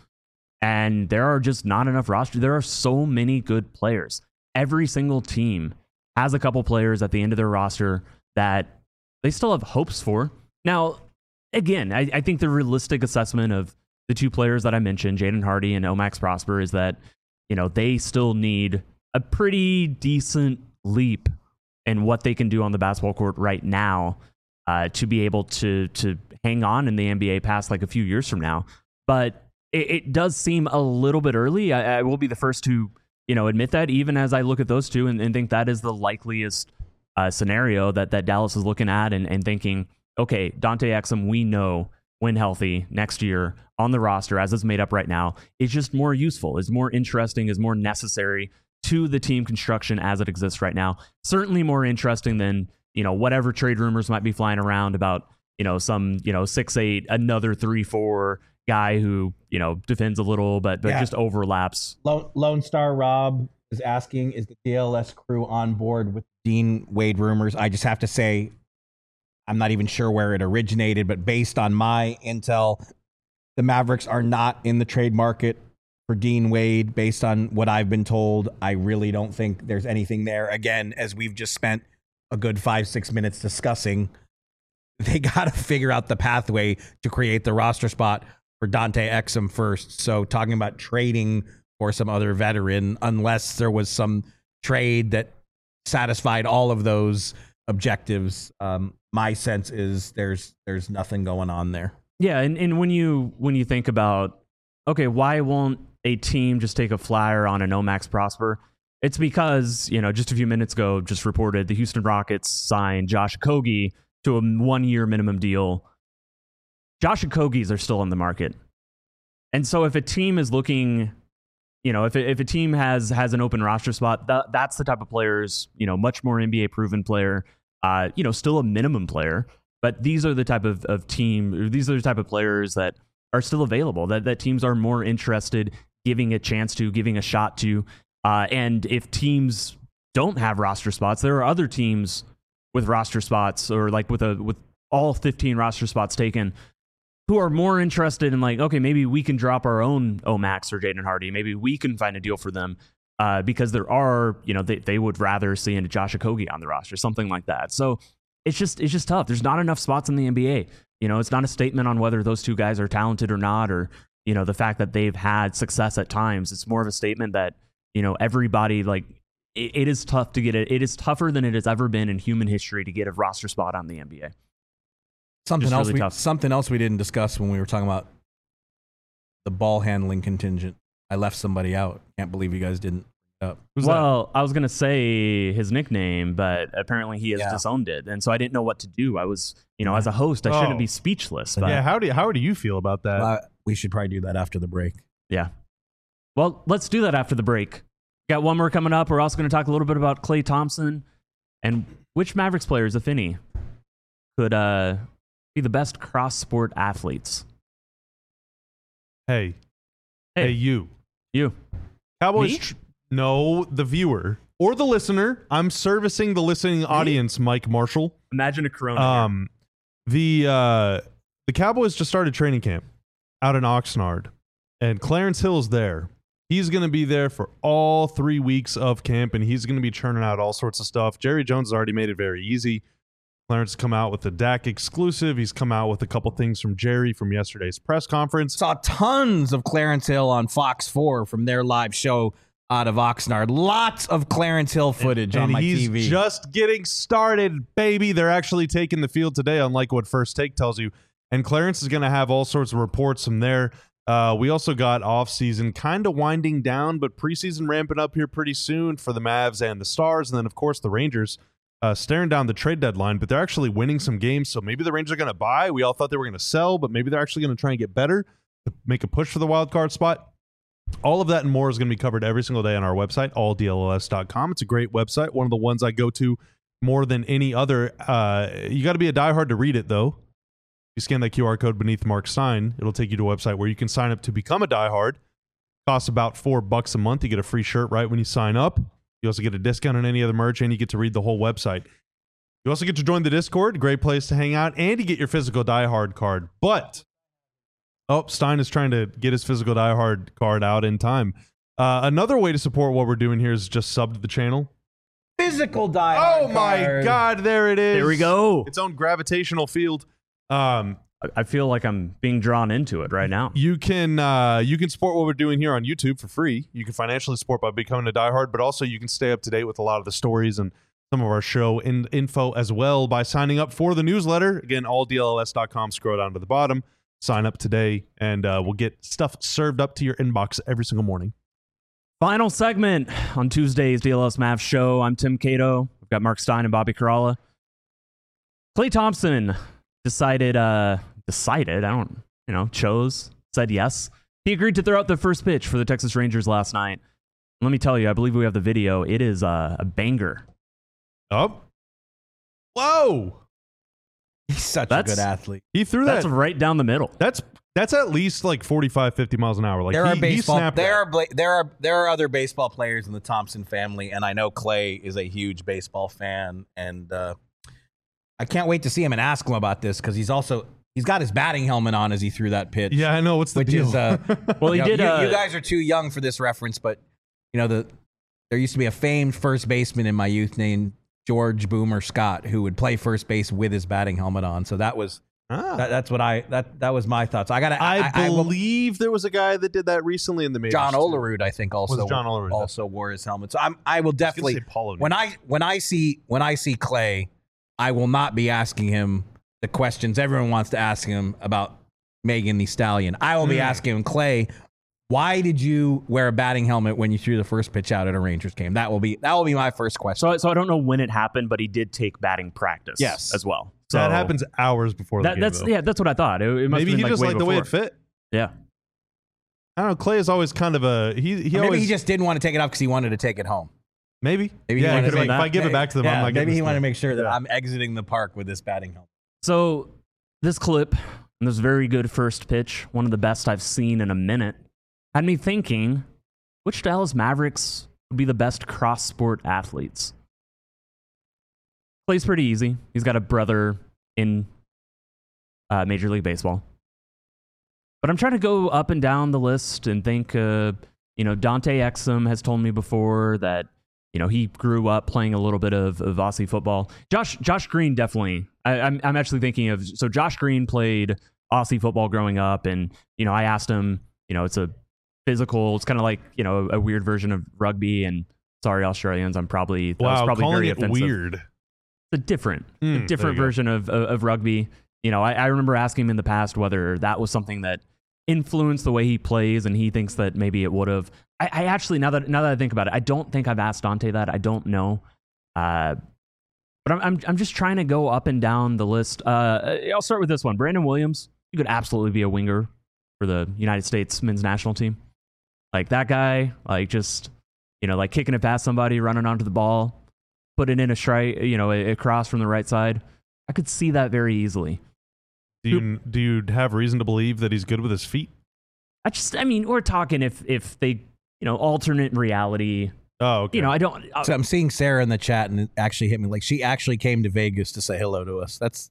And there are just not enough roster. There are so many good players. Every single team has a couple players at the end of their roster that they still have hopes for. Now, again, I think the realistic assessment of the two players that I mentioned, Jaden Hardy and Omax Prosper, is that, they still need a pretty decent leap in what they can do on the basketball court right now to be able to hang on in the NBA past like a few years from now. But it does seem a little bit early. I will be the first to, admit that, even as I look at those two and think that is the likeliest scenario that Dallas is looking at and thinking, okay, Dante Exum, we know when healthy next year on the roster as it's made up right now, is just more useful, is more interesting, is more necessary to the team construction as it exists right now. Certainly more interesting than, whatever trade rumors might be flying around about, some, 6'8", another 3'4" guy who, defends a little, but just overlaps. Lone Star Rob is asking, is the DLS crew on board with Dean Wade rumors? I just have to say, I'm not even sure where it originated, but based on my intel, the Mavericks are not in the trade market for Dean Wade. Based on what I've been told, I really don't think there's anything there. Again, as we've just spent a good 5-6 minutes discussing, they got to figure out the pathway to create the roster spot for Dante Exum first. So talking about trading for some other veteran, unless there was some trade that satisfied all of those objectives, my sense is there's nothing going on there. Yeah, and when you think about, okay, why won't a team just take a flyer on an Omax Prosper? It's because, just a few minutes ago, just reported the Houston Rockets signed Josh Okogie to a 1-year minimum deal. Josh Okogie's are still on the market. And so if a team is looking, if a team has an open roster spot, that's the type of players, much more NBA proven player, still a minimum player. But these are the type of these are the type of players that are still available, that teams are more interested giving a chance to, giving a shot to. And if teams don't have roster spots, there are other teams with roster spots, or like with all 15 roster spots taken, who are more interested in like, okay, maybe we can drop our own Omax or Jaden Hardy. Maybe we can find a deal for them because there are, they would rather see a Josh Okogie on the roster, something like that. So it's just tough. There's not enough spots in the NBA. It's not a statement on whether those two guys are talented or not, or, the fact that they've had success at times. It's more of a statement that, everybody, like, it is tough to get it. It is tougher than it has ever been in human history to get a roster spot on the NBA. Something else we didn't discuss when we were talking about the ball handling contingent. I left somebody out. Can't believe you guys didn't bring it up. Well, I was going to say his nickname, but apparently he has disowned it. And so I didn't know what to do. I was, as a host, I shouldn't be speechless. But yeah, how do you feel about that? We should probably do that after the break. Yeah. Well, let's do that after the break. Got one more coming up. We're also going to talk a little bit about Klay Thompson and which Mavericks players, if any, could be the best cross-sport athletes. Hey, you. Cowboys. No, the viewer or the listener. I'm servicing the listening audience, Mike Marshall. Imagine a Corona. The Cowboys just started training camp out in Oxnard, and Clarence Hill's there. He's going to be there for all 3 weeks of camp, and he's going to be churning out all sorts of stuff. Jerry Jones has already made it very easy. Clarence has come out with the Dak exclusive. He's come out with a couple things from Jerry from yesterday's press conference. Saw tons of Clarence Hill on Fox 4 from their live show out of Oxnard. Lots of Clarence Hill footage on my TV. He's just getting started, baby. They're actually taking the field today, unlike what First Take tells you. And Clarence is going to have all sorts of reports from there. We also got offseason kind of winding down, but preseason ramping up here pretty soon for the Mavs and the Stars. And then, of course, the Rangers staring down the trade deadline, but they're actually winning some games. So maybe the Rangers are going to buy. We all thought they were going to sell, but maybe they're actually going to try and get better to make a push for the wild card spot. All of that and more is going to be covered every single day on our website, alldls.com. It's a great website, one of the ones I go to more than any other. You got to be a diehard to read it, though. You scan that QR code beneath Mark's sign, it'll take you to a website where you can sign up to become a diehard. Costs about $4 a month. You get a free shirt right when you sign up. You also get a discount on any other merch, and you get to read the whole website. You also get to join the Discord, great place to hang out, and you get your physical Die Hard card. But, Stein is trying to get his physical Die Hard card out in time. Another way to support what we're doing here is just sub to the channel. Physical Die Hard Oh my card. God, there it is. There we go. Its own gravitational field. I feel like I'm being drawn into it right now. You can support what we're doing here on YouTube for free. You can financially support by becoming a diehard, but also you can stay up to date with a lot of the stories and some of our show info as well by signing up for the newsletter. Again, alldlls.com. Scroll down to the bottom. Sign up today, and we'll get stuff served up to your inbox every single morning. Final segment on Tuesday's DLS Mavs show. I'm Tim Cato. We've got Mark Stein and Bobby Karalla. Klay Thompson said yes. He agreed to throw out the first pitch for the Texas Rangers last night. Let me tell you, I believe we have the video. It is a banger. Oh. Whoa. He's such a good athlete. He threw That's that. right down the middle. That's at least like 45, 50 miles an hour. Like There are other baseball players in the Thompson family, and I know Klay is a huge baseball fan, and I can't wait to see him and ask him about this because he's got his batting helmet on as he threw that pitch. Yeah, I know. What's the deal? Well, he did. You guys are too young for this reference, but there used to be a famed first baseman in my youth named George Boomer Scott who would play first base with his batting helmet on. So that was that was my thoughts. I believe there was a guy that did that recently in the majors. John Olerud, I think, also wore his helmet. So I will definitely when I see Klay, I will not be asking him the questions everyone wants to ask him about Megan Thee Stallion. I will be asking him, Klay, why did you wear a batting helmet when you threw the first pitch out at a Rangers game? That will be my first question. So I don't know when it happened, but he did take batting practice. Yes. As well. So that happens hours before the game. That's what I thought. It must Maybe have been he just liked the way it fit. Yeah. I don't know. Klay is always kind of maybe he just didn't want to take it off because he wanted to take it home. Maybe yeah. If I give it back to them, I'm not. Maybe he wanted to make sure that I'm exiting the park with this batting helmet. So this clip and this very good first pitch, one of the best I've seen in a minute, had me thinking, which Dallas Mavericks would be the best cross-sport athletes? Klay's pretty easy. He's got a brother in Major League Baseball. But I'm trying to go up and down the list and think, Dante Exum has told me before that, he grew up playing a little bit of Aussie football. Josh Green definitely. I'm actually thinking of, so Josh Green played Aussie football growing up, and, I asked him, it's a physical, it's kind of like, a weird version of rugby, and sorry, Australians, that was probably very offensive. Weird. It's a different version of rugby. I remember asking him in the past whether that was something that influenced the way he plays, and he thinks that maybe it would have. I actually, now that I think about it, I don't think I've asked Dante that. I don't know. But I'm just trying to go up and down the list. I'll start with this one. Brandon Williams, you could absolutely be a winger for the United States men's national team. Like that guy, like just, like kicking it past somebody, running onto the ball, put it in a strike, a cross from the right side. I could see that very easily. Do you have reason to believe that he's good with his feet? We're talking if they, alternate reality. Oh, okay. I don't. So I'm seeing Sarah in the chat, and it actually hit me. Like, she actually came to Vegas to say hello to us. That's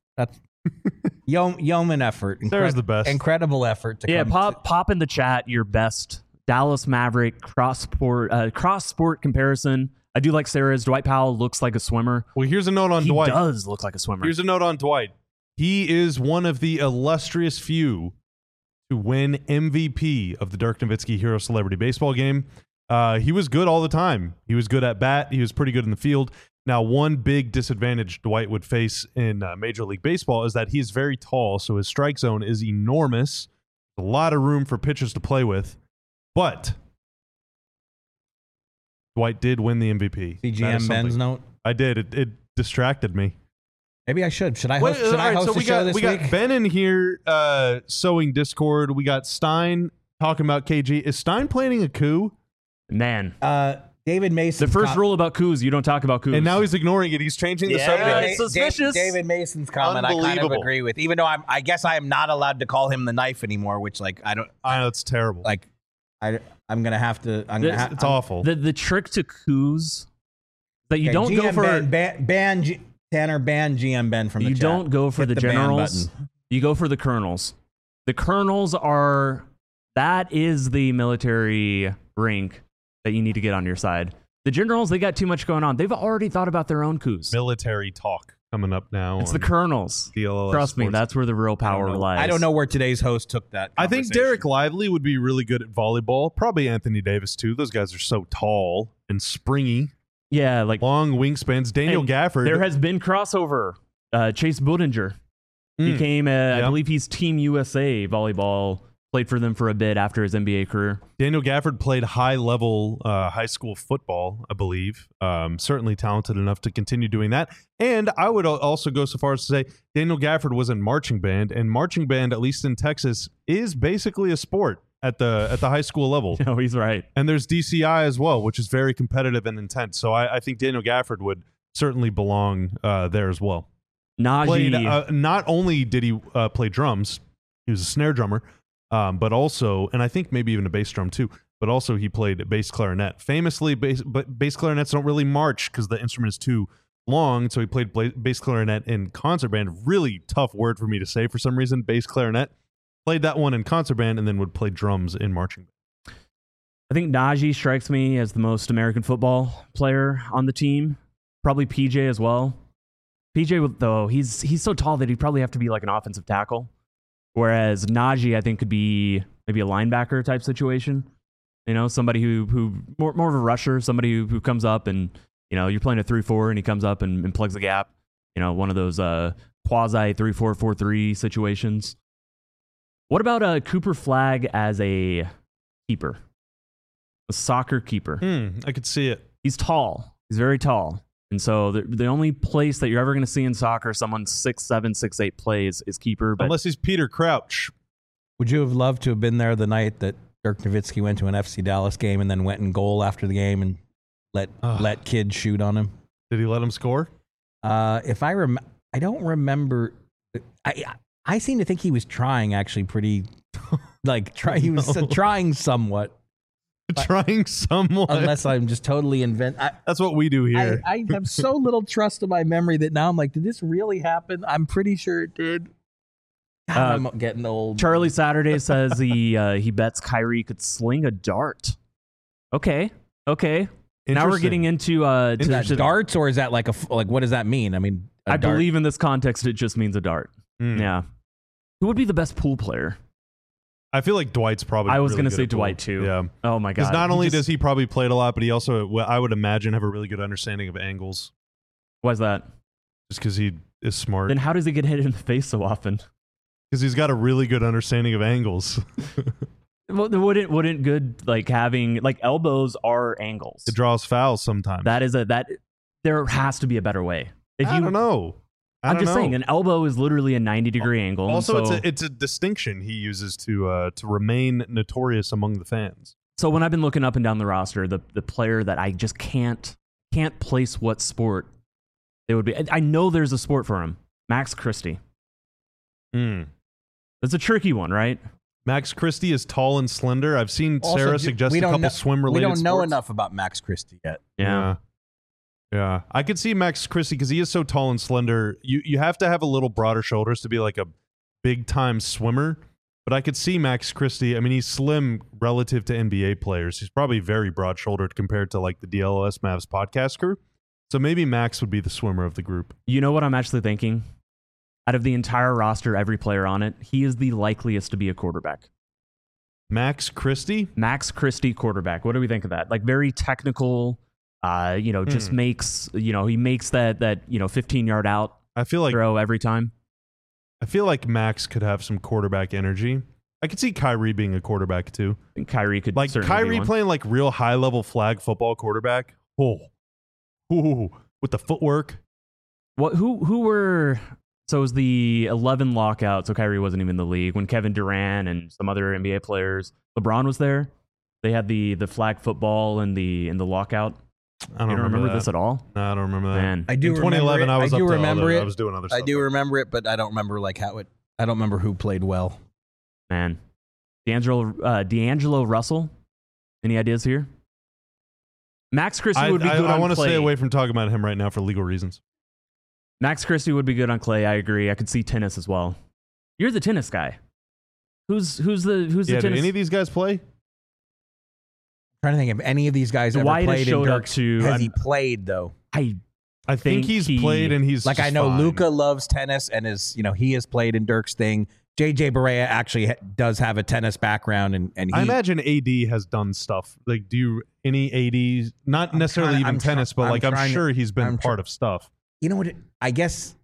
yeoman effort. Sarah's the best. Incredible effort to come. Pop in the chat your best Dallas Maverick cross sport comparison. I do like Sarah's. Dwight Powell looks like a swimmer. Well, here's a note on Dwight. He does look like a swimmer. Here's a note on Dwight. He is one of the illustrious few to win MVP of the Dirk Nowitzki Hero Celebrity Baseball game. He was good all the time. He was good at bat. He was pretty good in the field. Now, one big disadvantage Dwight would face in Major League Baseball is that he's very tall, so his strike zone is enormous. A lot of room for pitchers to play with. But Dwight did win the MVP. CGM Ben's note? I did. It distracted me. Maybe I should. Should I host the show this week? We got Ben in here sowing Discord. We got Stein talking about KG. Is Stein planning a coup? Man. David Mason. The first rule about coups, you don't talk about coups. And now he's ignoring it. He's changing the subject. It's suspicious. David Mason's comment I kind of agree with. Even though I guess I am not allowed to call him the knife anymore, which I know it's terrible. I'm gonna have to. It's awful. The trick to coups that you don't go for ban Tanner, ban GM Ben from the You chat. don't go for Hit the ban generals. button. You go for the colonels. The colonels that is the military rank that you need to get on your side. The generals, they got too much going on. They've already thought about their own coups. Military talk coming up now. It's the colonels. DLLS Trust me, Sports. that's where the real power lies. I don't know where today's host took that I think conversation. Derek Lively would be really good at volleyball. Probably Anthony Davis, too. Those guys are so tall and springy. Yeah, like Long wingspans. Daniel and Gafford. there has been crossover. Chase Budinger became, I believe he's Team USA volleyball. Played for them for a bit after his NBA career. Daniel Gafford played high-level high school football, I believe. Certainly talented enough to continue doing that. And I would also go so far as to say Daniel Gafford was in marching band, and marching band, at least in Texas, is basically a sport at the high school level. No, he's right. And there's DCI as well, which is very competitive and intense. So I think Daniel Gafford would certainly belong there as well. Najee. Not only did he play drums, he was a snare drummer, but also, and I think maybe even a bass drum too, but also he played bass clarinet. Famously, bass clarinets don't really march because the instrument is too long, so he played bass clarinet in concert band. Really tough word for me to say for some reason, bass clarinet. Played that one in concert band and then would play drums in marching band. I think Najee strikes me as the most American football player on the team. Probably PJ as well. PJ, though, he's so tall that he'd probably have to be like an offensive tackle. Whereas Najee, I think, could be maybe a linebacker type situation. You know, somebody who more of a rusher, somebody who comes up and, you know, you're playing a 3-4 and he comes up and plugs the gap. You know, one of those quasi 3-4-4-3 situations. What about Cooper Flagg as a keeper? A soccer keeper. I could see it. He's tall. He's very tall. And so the only place that you're ever going to see in soccer someone 6'7", 6'8" plays is keeper. But unless he's Peter Crouch. Would you have loved to have been there the night that Dirk Nowitzki went to an FC Dallas game and then went in goal after the game and let kids shoot on him? Did he let him score? If I don't remember. I seem to think he was trying actually pretty, he was trying somewhat. Trying somewhat. Unless I'm just totally That's what we do here. I have so little trust in my memory that now I'm like, did this really happen? I'm pretty sure it did. God, I'm getting old. Charlie Saturday says he bets Kyrie could sling a dart. Okay. Now we're getting into is that darts, or is that like what does that mean? I mean, I believe in this context it just means a dart. Yeah. Who would be the best pool player? I feel like Dwight's probably. I was really going to say good at pool. Dwight too. Yeah. Oh my god. Because not only does he probably played a lot, but he also, I would imagine, have a really good understanding of angles. Why's that? Just because he is smart. Then how does he get hit in the face so often? Because he's got a really good understanding of angles. Well, wouldn't good having elbows are angles. It draws fouls sometimes. There has to be a better way. I don't know. I'm just saying, an elbow is literally a 90-degree angle. Also, it's a distinction he uses to remain notorious among the fans. So when I've been looking up and down the roster, the player that I just can't place what sport it would be. I know there's a sport for him. Max Christie. That's a tricky one, right? Max Christie is tall and slender. I've seen Sarah suggest a couple swim-related sports. We don't know sports. enough about Max Christie yet. Yeah, I could see Max Christie because he is so tall and slender. You have to have a little broader shoulders to be like a big-time swimmer. But I could see Max Christie. I mean, he's slim relative to NBA players. He's probably very broad-shouldered compared to the DLOS Mavs podcast crew. So maybe Max would be the swimmer of the group. You know what I'm actually thinking? Out of the entire roster, every player on it, he is the likeliest to be a quarterback. Max Christie? Max Christie, quarterback. What do we think of that? Very technical. Just makes, he makes that 15-yard out throw every time. I feel like Max could have some quarterback energy. I could see Kyrie being a quarterback too. I think Kyrie could certainly Kyrie be one. playing real high-level flag football quarterback. With the footwork. Who were... So it was the 11 lockout, so Kyrie wasn't even in the league. When Kevin Durant and some other NBA players, LeBron was there. They had the flag football and the lockout. I don't remember that. this at all? No, I don't remember that. Man. I do. In 2011, I was up to remember it. I was doing other stuff. I do remember it, but I don't remember how it. I don't remember who played well. Man, D'Angelo Russell. Any ideas here? Max Christie would be good. I want to stay away from talking about him right now for legal reasons. Max Christie would be good on clay. I agree. I could see tennis as well. You're the tennis guy. Who's the tennis? Did any of these guys play? I'm trying to think if any of these guys ever Dwight played in showed up Dirk's. to. Has he played though? I think he's played, and he's Like, I just know fine. Luka loves tennis and he has played in Dirk's thing. JJ Barea actually does have a tennis background, and he, I imagine AD has done stuff. Like, do you any AD? Not necessarily even tennis, but like I'm sure he's been part of stuff. You know what? I guess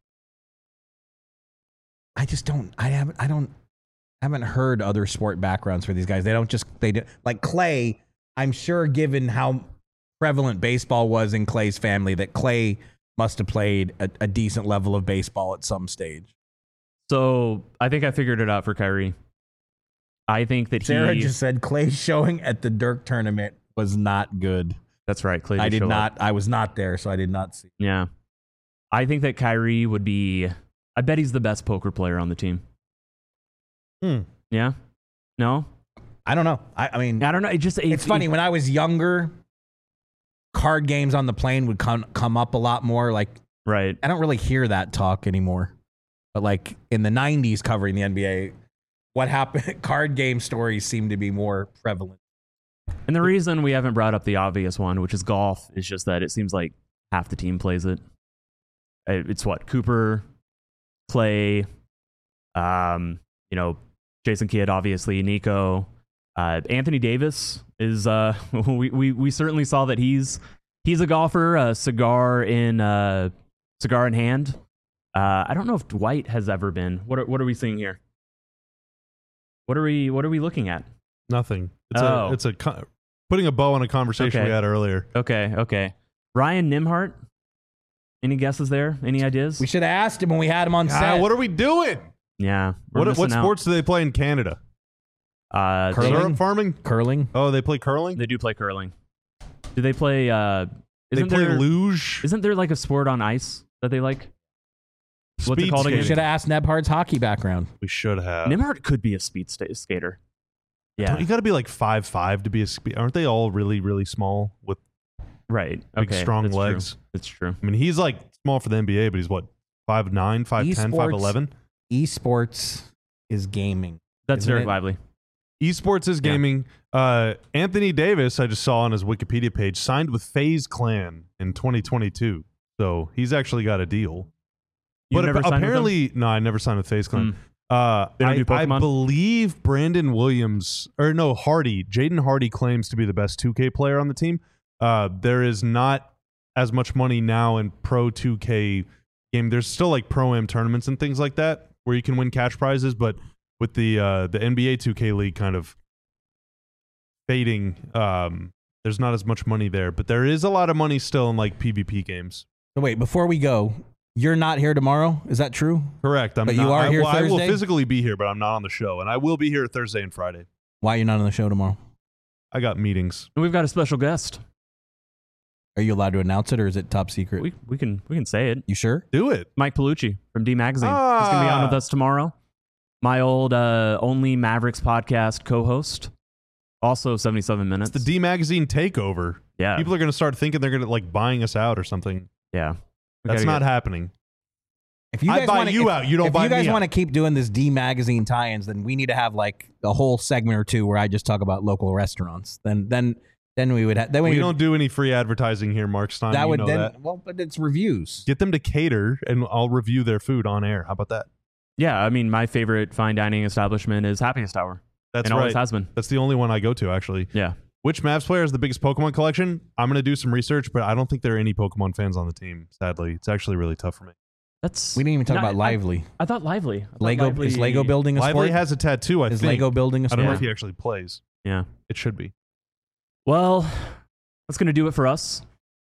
I just don't. I haven't heard other sport backgrounds for these guys. They do like Clay. I'm sure, given how prevalent baseball was in Clay's family, that Clay must have played a decent level of baseball at some stage. So I think I figured it out for Kyrie. I think that Sarah just said Clay's showing at the Dirk tournament was not good. That's right. Clay. I did not. I was not there, so I did not see. Yeah. I think that Kyrie would be. I bet he's the best poker player on the team. Yeah. No. I don't know. I mean, I don't know. It's funny. When I was younger, card games on the plane would come up a lot more. Like, right. I don't really hear that talk anymore. But like in the 90s covering the NBA, what happened, card game stories seem to be more prevalent. And the reason we haven't brought up the obvious one, which is golf, is just that it seems like half the team plays it. It's what? Cooper, Clay, Jason Kidd, obviously, Nico. Anthony Davis is we certainly saw that he's a golfer, cigar in hand. I don't know if Dwight has ever been. What are we seeing here? What are we looking at? Nothing. It's putting a bow on a conversation we had earlier. Okay. Ryan Nimhart. Any guesses there? Any ideas? We should have asked him when we had him on set. What are we doing? Yeah. What sports do they play in Canada? Curling? Farming? Curling. Oh, they play curling? They do play curling. Do they play they play luge? Isn't there like a sport on ice that they like? What's Speed it called again? We should have asked Nebhard's hockey background. We should have. Nimhart could be a speed skater. Yeah. You got to be like 5'5" to be a speed. Aren't they all really, really small with right? big, strong legs? That's true. I mean, he's like small for the NBA, but he's what, 5'9", 5'10", 5'11"? Esports is gaming. That's Derek Lively. Esports is gaming. Anthony Davis, I just saw on his Wikipedia page, signed with FaZe Clan in 2022. So he's actually got a deal. But apparently, no, I never signed with FaZe Clan. I believe Brandon Williams, Jaden Hardy claims to be the best 2K player on the team. There is not as much money now in Pro 2K game. There's still like Pro-Am tournaments and things like that where you can win cash prizes, but with the NBA 2K League kind of fading, there's not as much money there. But there is a lot of money still in like PvP games. So wait, before we go, you're not here tomorrow? Is that true? Correct. But you are here Thursday? I will physically be here, but I'm not on the show. And I will be here Thursday and Friday. Why are you not on the show tomorrow? I got meetings. And we've got a special guest. Are you allowed to announce it, or is it top secret? We can say it. You sure? Do it. Mike Pellucci from D Magazine. He's going to be on with us tomorrow. My old Only Mavericks podcast co-host. Also 77 minutes. It's the D Magazine takeover. Yeah. People are going to start thinking they're going to like buying us out or something. Yeah. That's not happening. If you guys buy you out, you don't buy me out. If you guys want to keep doing this D Magazine tie-ins, then we need to have like a whole segment or two where I just talk about local restaurants. Then we would have. We don't do any free advertising here, Mark Stein. That would then. That. Well, but it's reviews. Get them to cater, and I'll review their food on air. How about that? Yeah, I mean, my favorite fine dining establishment is Happiest Hour. That's and right. Always has been. That's the only one I go to, actually. Yeah. Which Mavs player has the biggest Pokemon collection? I'm going to do some research, but I don't think there are any Pokemon fans on the team. Sadly, it's actually really tough for me. We didn't even talk about Lively. I thought Lively. Is Lego building a sport? Lively has a tattoo, I think. Is Lego building a sport? I don't know if he actually plays. Yeah. It should be. Well, that's going to do it for us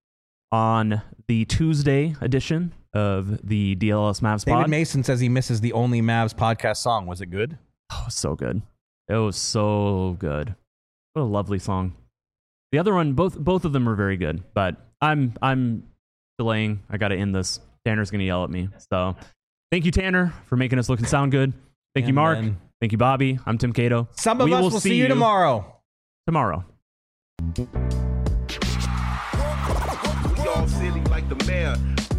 on the Tuesday edition of the DLS Mavs pod. David Mason says he misses the Only Mavs podcast song. Was it good? Oh, so good. It was so good. What a lovely song. The other one, both of them are very good, but I'm delaying. I got to end this. Tanner's going to yell at me. So thank you, Tanner, for making us look and sound good. Thank you, Mark. Thank you, Bobby. I'm Tim Cato. Some of us will see you tomorrow. Tomorrow. We all silly like the mayor.